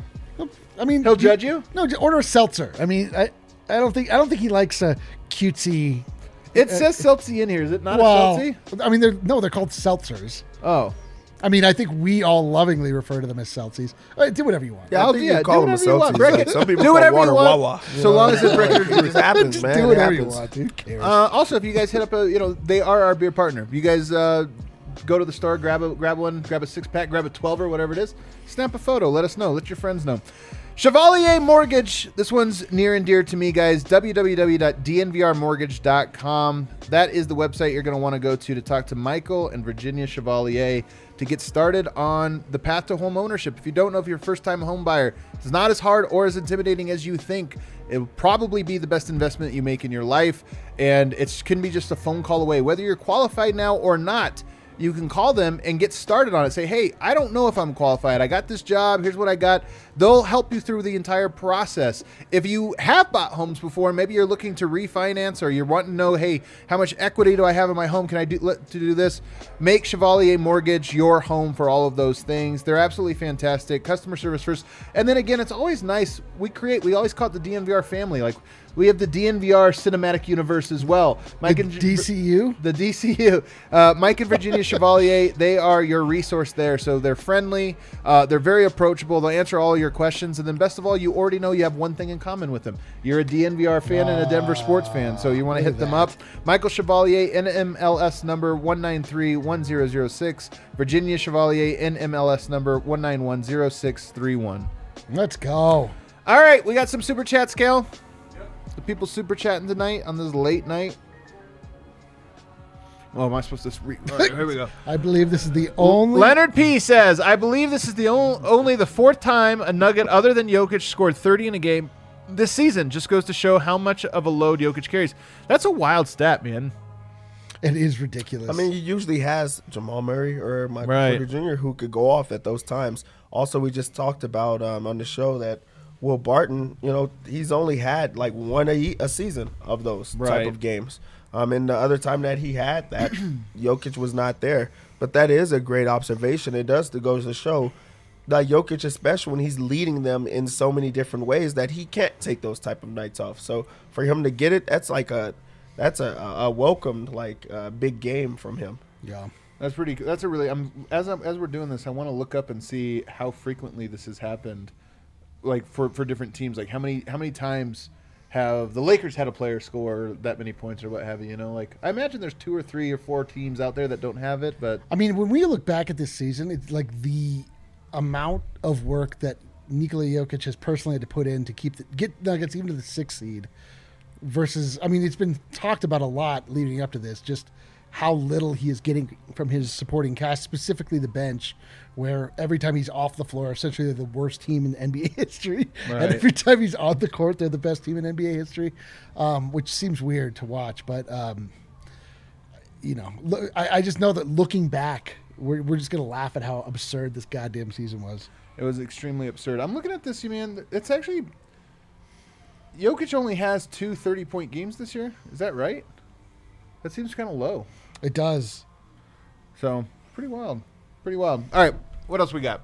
I mean, He'll judge you? No, just order a seltzer. I mean, I, I don't think I don't think he likes a cutesy. It says Seltzy in here. Is it not well, a Seltzy? I mean, they're no, they're called seltzers. Oh. I mean, I think we all lovingly refer to them as Celsius. Uh, do whatever you want. Yeah, I I'll- think yeah, you call do them a whatever you want. Celsius. Break Like, it. some people Do call whatever water you want. Wawa. So long as it breaks It just happens, Just man. do It whatever you happens. want. Who cares? Uh, also, if you guys hit up a, you know, they are our beer partner. You guys uh, go to the store, grab a grab one, grab a six pack, grab a twelve or whatever it is. Snap a photo. Let us know. Let your friends know. Chevalier Mortgage. This one's near and dear to me, guys. w w w dot d n v r mortgage dot com. That is the website you're going to want to go to to talk to Michael and Virginia Chevalier to get started on the path to home ownership. If you don't know if you're a first-time home buyer, it's not as hard or as intimidating as you think. It will probably be the best investment you make in your life, and it can be just a phone call away. Whether you're qualified now or not, you can call them and get started on it. Say, hey, I don't know if I'm qualified. I got this job. Here's what I got. They'll help you through the entire process. If you have bought homes before, maybe you're looking to refinance or you're wanting to know, hey, how much equity do I have in my home? Can I do let, to do this? Make Chevalier Mortgage your home for all of those things. They're absolutely fantastic. Customer service first. And then again, it's always nice. We create, we always call it the D N V R family. Like, we have the D N V R cinematic universe as well. Mike the and D C U? The D C U. Uh, Mike and Virginia Chevalier, they are your resource there. So they're friendly. Uh, they're very approachable. They'll answer all your questions. And then best of all, you already know you have one thing in common with them. You're a D N V R fan and a Denver sports fan. So you want to hit them up. Michael Chevalier, N M L S number one nine three one zero zero six. Virginia Chevalier, N M L S number one nine one zero six three one. Let's go. All right, we got some super chat, Scale. The people super chatting tonight on this late night. Oh, am I supposed to read? All right, here we go. I believe this is the only. Leonard P says, I believe this is the only, only the fourth time a Nugget other than Jokic scored thirty in a game this season. Just goes to show how much of a load Jokic carries. That's a wild stat, man. It is ridiculous. I mean, he usually has Jamal Murray or Michael Right. Porter Junior who could go off at those times. Also, we just talked about um, on the show that Will Barton, you know, he's only had like one a, a season of those Right. type of games. Um, and the other time that he had that, Jokic was not there. But that is a great observation. It does to go to show that Jokic, especially when he's leading them in so many different ways, that he can't take those type of nights off. So for him to get it, that's like a that's a, a welcomed like uh, big game from him. yeah. That's pretty. That's a really. I'm as I'm, as we're doing this, I want to look up and see how frequently this has happened, like for, for different teams. Like how many how many times have the Lakers had a player score that many points or what have you? You know, like I imagine there's two or three or four teams out there that don't have it, but I mean, when we look back at this season, it's like the amount of work that Nikola Jokic has personally had to put in to keep the, get Nuggets even to the sixth seed versus, I mean, it's been talked about a lot leading up to this, just how little he is getting from his supporting cast, specifically the bench, where every time he's off the floor, essentially they're the worst team in N B A history. Right. And every time he's on the court, they're the best team in N B A history, um, which seems weird to watch. But, um, you know, look, I, I just know that looking back, we're, we're just going to laugh at how absurd this goddamn season was. it was extremely absurd. I'm looking at this, you man. It's actually Jokic only has two thirty-point games this year. Is that right? That seems kind of low. It does. So pretty wild. Pretty wild. All right, what else we got?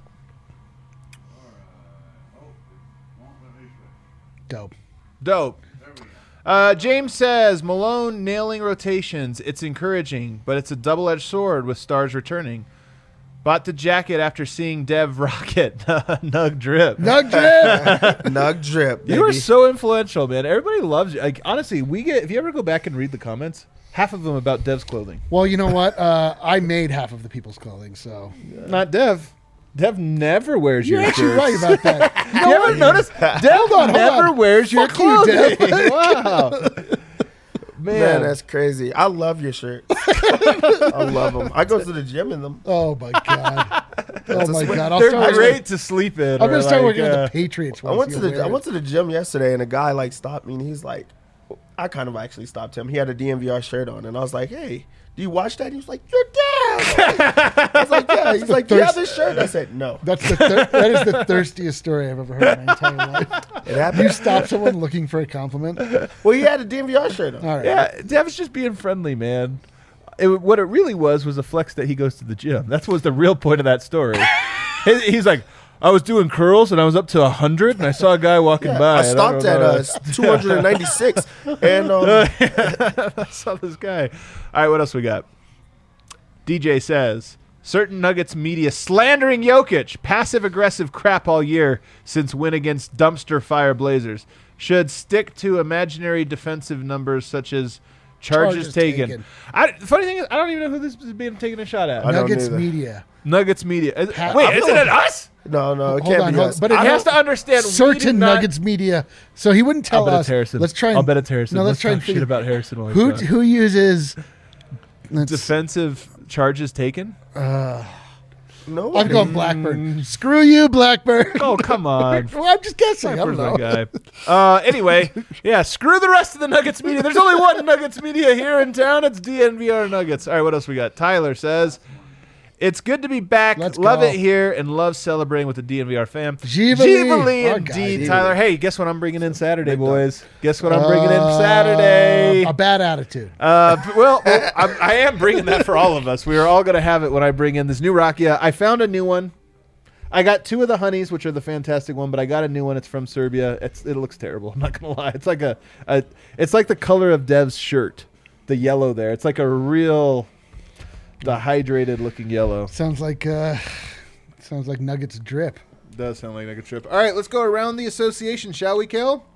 Dope. Dope. Uh, James says Malone nailing rotations. It's encouraging, but it's a double-edged sword with stars returning. Bought the jacket after seeing Dev rock it. Nug drip. Nug drip. Nug drip. You are baby. so influential, man. Everybody loves you. Like honestly, we get if you ever go back and read the comments, half of them about Dev's clothing. Well, you know what? Uh, I made half of the people's clothing, so Not Dev. Dev never wears you're your actually shirts. right about that. You You know ever what? notice Dev Hold on, hold never on. wears your Fuck you, clothing? Dev. Wow, man, Man, that's crazy. I love your shirt. I love them. I go to the gym in them. Oh my god. Oh a my sweat- god. I'll they're start great working- to sleep in. I'm or gonna start like, working uh, with the Patriots. I once went to you'll the wear I it. went to the gym yesterday, and a guy like stopped me, and he's like, I kind of actually stopped him. He had a D N V R shirt on, and I was like, "Hey, do you watch that?" He was like, "You're down." I was like, "Yeah." He's like, "Do you have this shirt?" I said, "No." That's the thir- that is the thirstiest story I've ever heard in my entire life. It You happened. stop someone looking for a compliment. All Well, he had a D N V R shirt on. right. Yeah, Dev's just being friendly, man. It, what it really was was a flex that he goes to the gym. That was the real point of that story. He- He's like, I was doing curls and I was up to one hundred and I saw a guy walking Yeah, by. I and stopped don't at know. uh, two hundred ninety-six, and um, I saw this guy. All right, what else we got? D J says, Certain Nuggets media slandering Jokic. Passive-aggressive crap all year since win against dumpster fire Blazers. Should stick to imaginary defensive numbers such as charges, Charges taken. taken. I, the funny thing is, I don't even know who this is being taken a shot at. I don't Nuggets either. media. Nuggets media. Is- Pa- Wait, I feel isn't it like- us? No, no, it Hold can't on, be hold us. on. But it I has have to understand. we certain did not- Nuggets media. So he wouldn't tell I'll bet us. it's Harrison. Let's try and I'll bet it's Harrison. No, let's, try and talk shit figure about Harrison. while we who talk. who uses. Let's, defensive charges taken. No, I'm going Blackburn. Screw you, Blackburn. Oh, come on. Well, I'm just guessing. I don't Blackburn's know. my guy. Uh, anyway, yeah, screw the rest of the Nuggets media. There's only one Nuggets media here in town. It's D N V R Nuggets. All right, what else we got? Tyler says, it's good to be back. Let's love go. it here and love celebrating with the D N V R fam. Givali. Givali Our indeed, guy. Tyler. Hey, guess what I'm bringing in Saturday, boys? Guess what I'm bringing in Saturday? Uh, a bad attitude. Uh, b- well, well I'm, I am bringing that for all of us. We are all going to have it when I bring in this new Rakia. I found a new one. I got two of the honeys, which are the fantastic one, but I got a new one. It's from Serbia. It's it looks terrible. I'm not gonna lie. It's like a, a it's like the color of Dev's shirt, the yellow there. It's like a real dehydrated looking yellow. Sounds like uh, sounds like Nuggets drip. Does sound like a trip. All right, let's go around the association, shall we, Kel?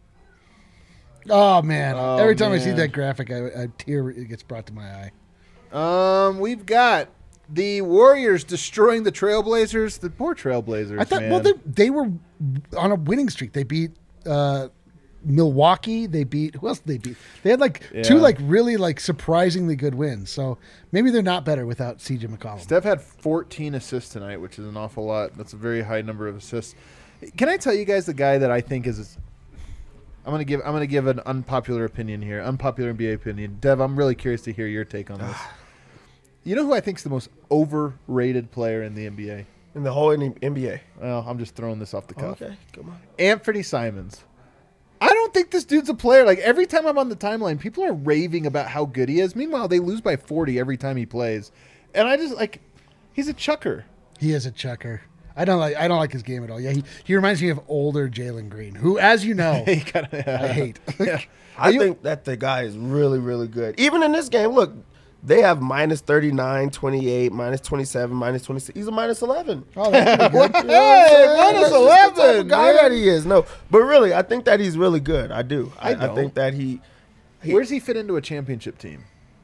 Oh man! Oh, Every time I see man. that graphic, I, a tear gets brought to my eye. Um, we've got the Warriors destroying the Trailblazers. The poor Trailblazers. I thought, man. well, they they were on a winning streak. They beat uh, Milwaukee. They beat who else did they beat? They had like two Yeah. like really like surprisingly good wins. So maybe they're not better without C J McCollum. Steph had fourteen assists tonight, which is an awful lot. That's a very high number of assists. Can I tell you guys the guy that I think is? I'm gonna give. I'm gonna give an unpopular opinion here. Unpopular N B A opinion. Dev, I'm really curious to hear your take on this. You know who I think is the most overrated player in the N B A? in the whole N B A. Well, I'm just throwing this off the cuff. Okay, come on. Anthony Simons. I don't think this dude's a player. Like every time I'm on the timeline, people are raving about how good he is. Meanwhile, they lose by forty every time he plays, and I just like he's a chucker. He is a chucker. I don't like. I don't like his game at all. Yeah, he, he reminds me of older Jalen Green, who, as you know, He kinda, I hate. Yeah. I Are you- think that the guy is really, really good. Even in this game, look, they have minus thirty-nine, twenty-eight, minus twenty-seven, minus twenty-six. He's a minus eleven. Oh, that's pretty good. Hey, minus That's just the type eleven, of guy man. that he is. No, but really, I think that he's really good. I do. I I, I, don't. think that he, he Where's he fit into a championship team?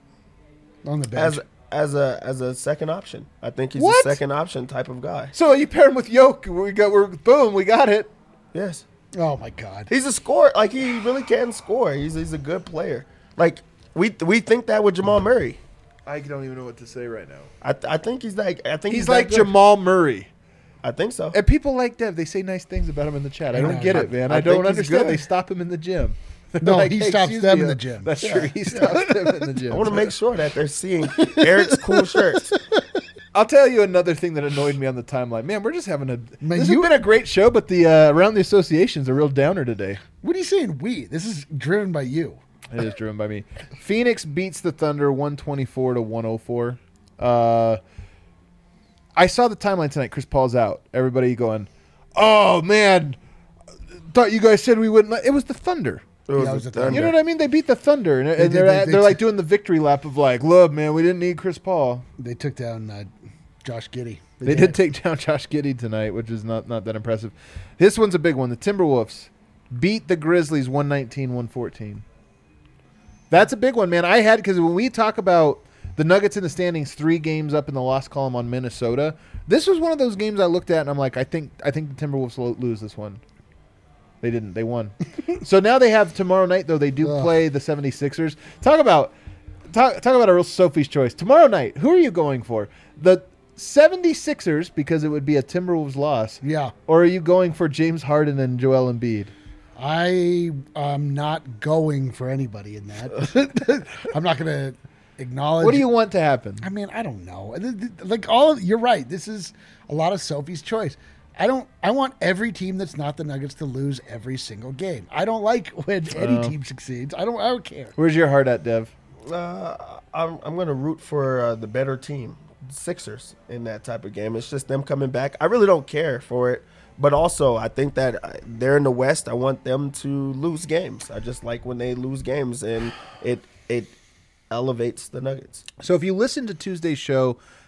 On the bench. as as a as a second option. I think he's What? a second option type of guy. So you pair him with Yoke. We got. We're boom. We got it. Yes, oh my God. he's a scorer. Like he really can score. He's he's a good player. Like we we think that with Jamal Murray. I don't even know what to say right now. I I think he's like I think He's, he's, like that good. Jamal Murray. I think so. And people like Dev. They say nice things about him in the chat. I I don't know. get I- it, man. I I, don't think he's understand. good. They stop him in the gym. They're No, like, he "Hey, stops excuse them me, in the uh, gym." That's Yeah. true. He stops them in the gym. I want to make sure that they're seeing Eric's cool shirts. I'll tell you another thing that annoyed me on the timeline. Man, we're just having a. Man, this you- has been a great show, but the uh, around the association's a real downer today. What are you saying? We. This is driven by you. It is driven by me. Phoenix beats the Thunder one twenty-four to one oh four. Uh, I saw the timeline tonight. Chris Paul's out. Everybody going, oh, man. Thought you guys said we wouldn't. Let-. It was the Thunder. It was Yeah, it a was a thunder. You know what I mean? They beat the Thunder. And, and did, they're, they- at, they they're t- like doing the victory lap of like, look, man, we didn't need Chris Paul. They took down uh, Josh Giddey. They did take down Josh Giddey tonight, which is not, not that impressive. This one's a big one. The Timberwolves beat the Grizzlies one nineteen one fourteen. That's a big one, man. I had because when we talk about the Nuggets in the standings, three games up in the loss column on Minnesota, this was one of those games I looked at and I'm like, I think I think the Timberwolves will lose this one. They didn't. They won. So now they have tomorrow night, though. They do Ugh. play the seventy-sixers. Talk about talk, talk about a real Sophie's choice. Tomorrow night, who are you going for? The seventy-sixers, because it would be a Timberwolves loss. Yeah. Or are you going for James Harden and Joel Embiid? I am not going for anybody in that. I'm not going to acknowledge. What do you want to happen? I mean, I don't know. Th- th- Like all of, you're right. This is a lot of Sophie's choice. I don't. I want every team that's not the Nuggets to lose every single game. I don't like when any Oh. team succeeds. I don't. I don't care. Where's your heart at, Dev? Uh, I'm I'm going to root for uh, the better team, Sixers, in that type of game. It's just them coming back. I really don't care for it, but also I think that uh, they're in the West. I want them to lose games. I just like when they lose games, and it it elevates the Nuggets. So if you listen to Tuesday's show,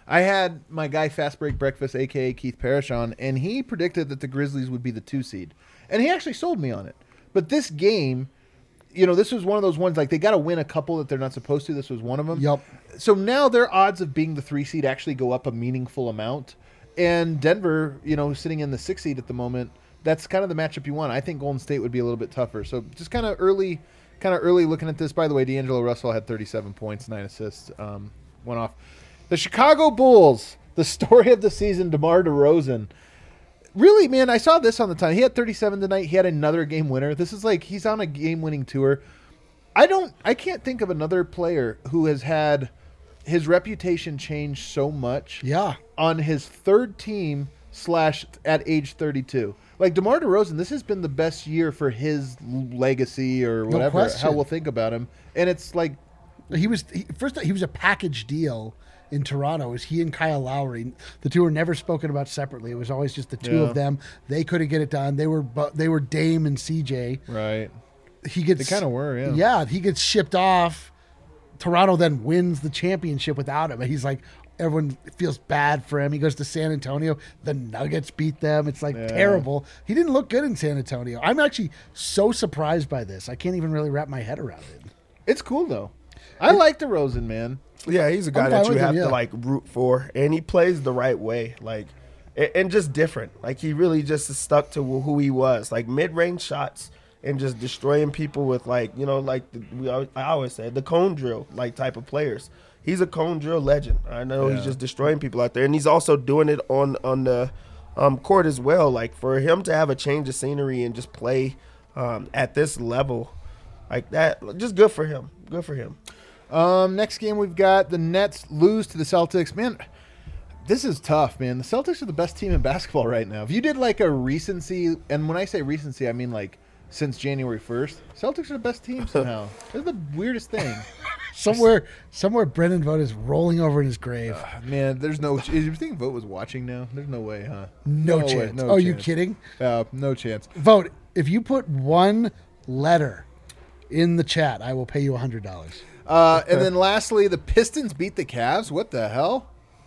I had my guy Fast Break Breakfast, a k a. Keith Parrish, on, and he predicted that the Grizzlies would be the two seed. And he actually sold me on it. But this game, you know, this was one of those ones, like, they got to win a couple that they're not supposed to. This was one of them. Yep. So now their odds of being the three seed actually go up a meaningful amount. And Denver, you know, sitting in the six seed at the moment, that's kind of the matchup you want. I think Golden State would be a little bit tougher. So just kind of early, kind of early looking at this. By the way, D'Angelo Russell had thirty-seven points, nine assists, um, went off. The Chicago Bulls, the story of the season, DeMar DeRozan. Really, man, I saw this on the time. He had thirty-seven tonight. He had another game winner. This is like he's on a game-winning tour. I don't, I can't think of another player who has had his reputation change so much. Yeah. On his third team slash at age thirty-two. Like DeMar DeRozan, this has been the best year for his legacy or No whatever, question. how we'll think about him. And it's like, He was he, first. He was a package deal in Toronto. It was he and Kyle Lowry. The two were never spoken about separately. It was always just the two Yeah. of them. They couldn't get it done. They were bu- they were Dame and C J. right. He gets They kinda were, yeah. Yeah, he gets shipped off. Toronto then wins the championship without him. And he's like, everyone feels bad for him. He goes to San Antonio. The Nuggets beat them. It's like Yeah. terrible. He didn't look good in San Antonio. I'm actually so surprised by this. I can't even really wrap my head around it. It's cool, though. I like DeRozan, man. Yeah, he's a guy I'm that fine you with him, have yeah. to like root for, and he plays the right way, like, and, and just different. Like he really just is stuck to who he was, like mid-range shots and just destroying people with like you know like the, we always, I always say the cone drill like type of players. He's a cone drill legend. I know Yeah. he's just destroying people out there, and he's also doing it on on the um, court as well. Like for him to have a change of scenery and just play um, at this level like that, just good for him. Good for him. Um, next game we've got the Nets lose to the Celtics. Man, this is tough, man. The Celtics are the best team in basketball right now. If you did like a recency, and when I say recency, I mean like since January first, Celtics are the best team somehow. They're the weirdest thing. Somewhere, somewhere, Brendan Vogt is rolling over in his grave. Man, there's no. Is you think Vogt was watching now? There's no way, huh? No, way, chance. no oh, you chance. kidding? Uh, no chance. Vote. If you put one letter in the chat, I will pay you a hundred dollars. Uh, and then lastly, the Pistons beat the Cavs. What the hell?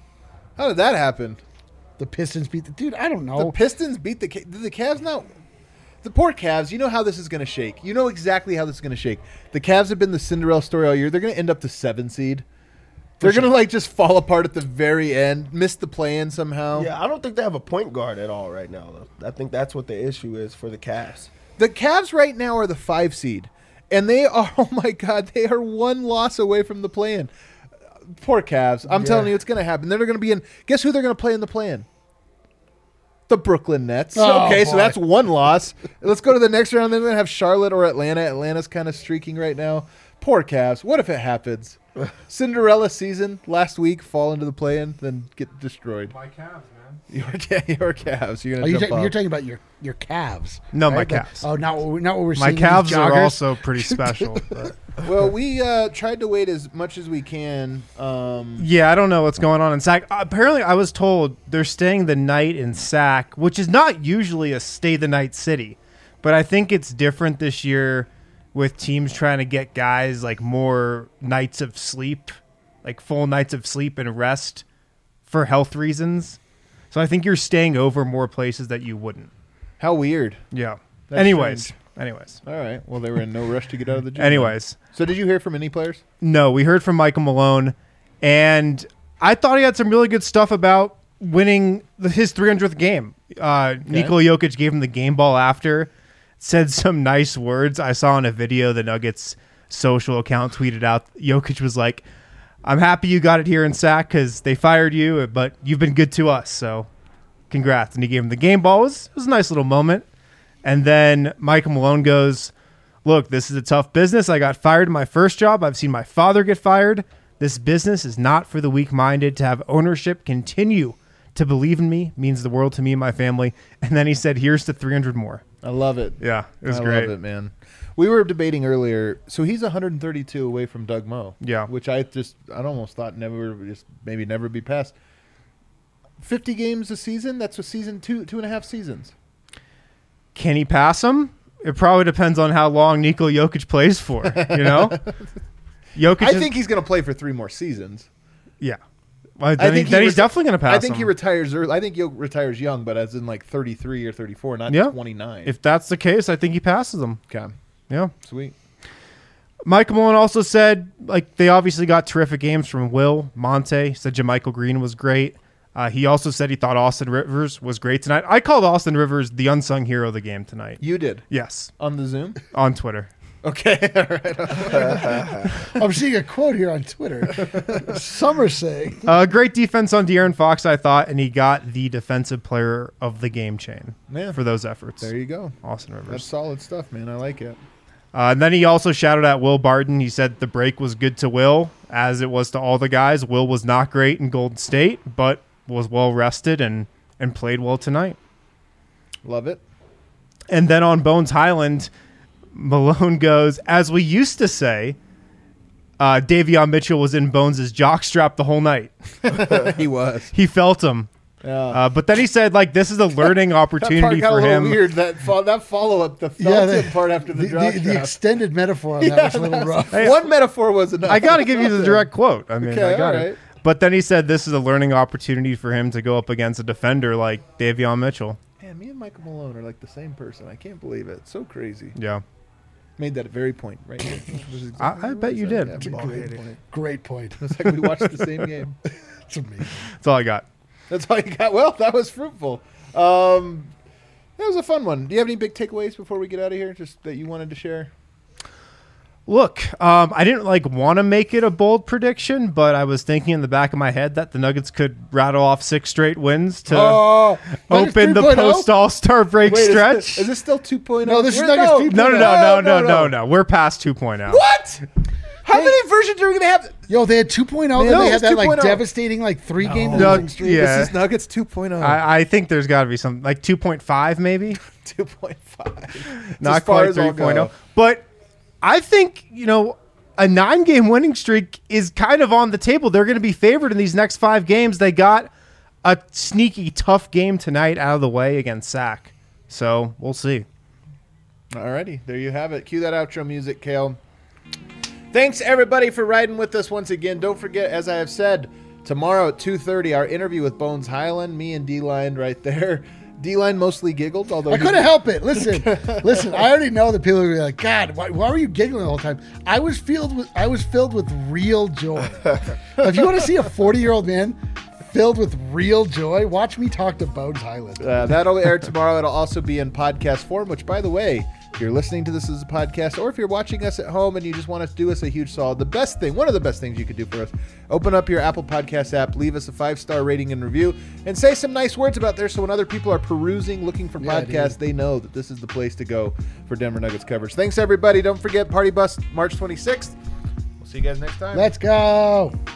How did that happen? The Pistons beat the dude. I don't The know. Pistons beat the Ca- did the Cavs not. The poor Cavs, you know how this is going to shake. You know exactly how this is going to shake. The Cavs have been the Cinderella story all year. They're going to end up the seven seed. They're going to like just fall apart at the very end, miss the play-in somehow. Yeah, I don't think they have a point guard at all right now, though. I think that's what the issue is for the Cavs. The Cavs right now are the five seed, and they are, oh my God, they are one loss away from the play-in. Poor Cavs. I'm Yeah. telling you, it's going to happen. They're going to be in, guess who they're going to play in the play-in? The Brooklyn Nets. Oh, okay, so boy. that's one loss. Let's go to the next round. Then we're going to have Charlotte or Atlanta. Atlanta's kind of streaking right now. Poor Cavs. What if it happens? Cinderella season last week, fall into the play-in, then get destroyed. My calves, man. Your, your Cavs. You're Oh, going you to jump ta- off. you're talking about your your calves. No, my right? The- calves. Oh, not what we, not what we're My seeing. calves these are joggers. also pretty special. but- Well, we uh, tried to wait as much as we can. Um, Yeah, I don't know what's going on in Sac. Apparently, I was told they're staying the night in Sac, which is not usually a stay the night city, but I think it's different this year with teams trying to get guys like more nights of sleep, like full nights of sleep and rest for health reasons. So I think you're staying over more places that you wouldn't. how weird. Yeah. That's anyways, strange. anyways, All right. Well, they were in no rush to get out of the gym. anyways. So did you hear from any players? No, we heard from Michael Malone, and I thought he had some really good stuff about winning the, his three hundredth game. Uh, Nikola Jokic gave him the game ball after, said some nice words. I saw in a video the Nuggets social account tweeted out, Jokic was like, I'm happy you got it here in Sac because they fired you, but you've been good to us, so congrats. And he gave him the game ball. It was, it was a nice little moment. And then Michael Malone goes, look, this is a tough business. I got fired in my first job. I've seen my father get fired. This business is not for the weak-minded. To have ownership continue to believe in me means the world to me and my family. And then he said, here's to three hundred more. I love it. Yeah, it was I great. love it, man. We were debating earlier. So he's one hundred thirty-two away from Doug Moe. Yeah. Which I just, I almost thought never, just maybe never be passed. fifty games a season? That's a season, two, two and a half seasons. Can he pass him? It probably depends on how long Nikola Jokic plays for, you know? Jokic I is- think he's going to play for three more seasons. yeah. Well, then, he, then he's reti- definitely going to pass I think him. he retires early. I think he retires young, but as in like thirty-three or thirty-four, not Yeah. twenty-nine. If that's the case, I think he passes him. okay, Yeah. sweet. Michael Malone also said, like, they obviously got terrific games from Will, Monte. He said JaMychal Green was great. Uh, he also said he thought Austin Rivers was great tonight. I called Austin Rivers the unsung hero of the game tonight. You did Yes, on the Zoom. on Twitter. Okay, all right. I'm seeing a quote here on Twitter. Some are saying. Uh, great defense on De'Aaron Fox, I thought, and he got the defensive player of the game chain Yeah. for those efforts. There you go. Austin That's Rivers. solid stuff, man. I like it. Uh, and then he also shouted at Will Barton. He said the break was good to Will, as it was to all the guys. Will was not great in Golden State, but was well rested and, and played well tonight. Love it. And then on Bones Highland, Malone goes, as we used to say, uh, Davion Mitchell was in Bones' jockstrap the whole night. He was. He felt him. Yeah. Uh, but then he said, like, this is a learning that part opportunity got for a little him. weird. That fo- that follow up, the Felton part after the, the, drop the, the shot. extended metaphor on that Yeah, was a little that's- rough. Hey, One metaphor was enough. I got to give you the direct quote. I mean, Okay, I got all it. right. But then he said this is a learning opportunity for him to go up against a defender like Davion Mitchell. Man, me and Michael Malone are like the same person. I can't believe it. It's so crazy. Yeah. Made that very point right here. Which is I- I exactly bet what you said. did. Yeah, It's a ball great hitting. point. Great point. It's like we watched the same game. It's amazing. That's all I got. That's all you got. Well, that was fruitful. Um, that was a fun one. Do you have any big takeaways before we get out of here? Just that you wanted to share? Look, um, I didn't like want to make it a bold prediction, but I was thinking in the back of my head that the Nuggets could rattle off six straight wins to Oh, open the three point oh? post All Star break wait, is stretch. this, is this still two point oh? No, this is Where- Nuggets no, three no, no, point no, no, no, no, no. We're past two point oh. What? How many versions are we gonna have? Yo, they had two point oh, Man, then no, they had it's that like two point oh. devastating like three game No, losing streak. yeah. This is Nuggets two point oh. I, I think there's got to be some like two point five maybe, two point five. not quite three point oh. But I think, you know, a nine game winning streak is kind of on the table. They're going to be favored in these next five games. They got a sneaky tough game tonight out of the way against Sac. So we'll see. Alrighty, there you have it. Cue that outro music, Kale. Thanks, everybody, for riding with us once again. Don't forget, as I have said, tomorrow at two thirty, our interview with Bones Highland, me and D-Line right there. D-Line mostly giggled, although I he- couldn't help it. Listen, listen. I already know that people are gonna be like, God, why, why were you giggling the whole time? I was filled with, I was filled with real joy. If you want to see a forty-year-old man filled with real joy, watch me talk to Bones Highland. Uh, that'll air tomorrow. It'll also be in podcast form, which, by the way, if you're listening to this as a podcast or if you're watching us at home and you just want to do us a huge solid, the best thing, one of the best things you could do for us, open up your Apple Podcast app, leave us a five-star rating and review, and say some nice words about there so when other people are perusing, looking for Yeah, podcasts, dude. they know that this is the place to go for Denver Nuggets coverage. Thanks, everybody. Don't forget Party Bus March twenty-sixth. We'll see you guys next time. Let's go.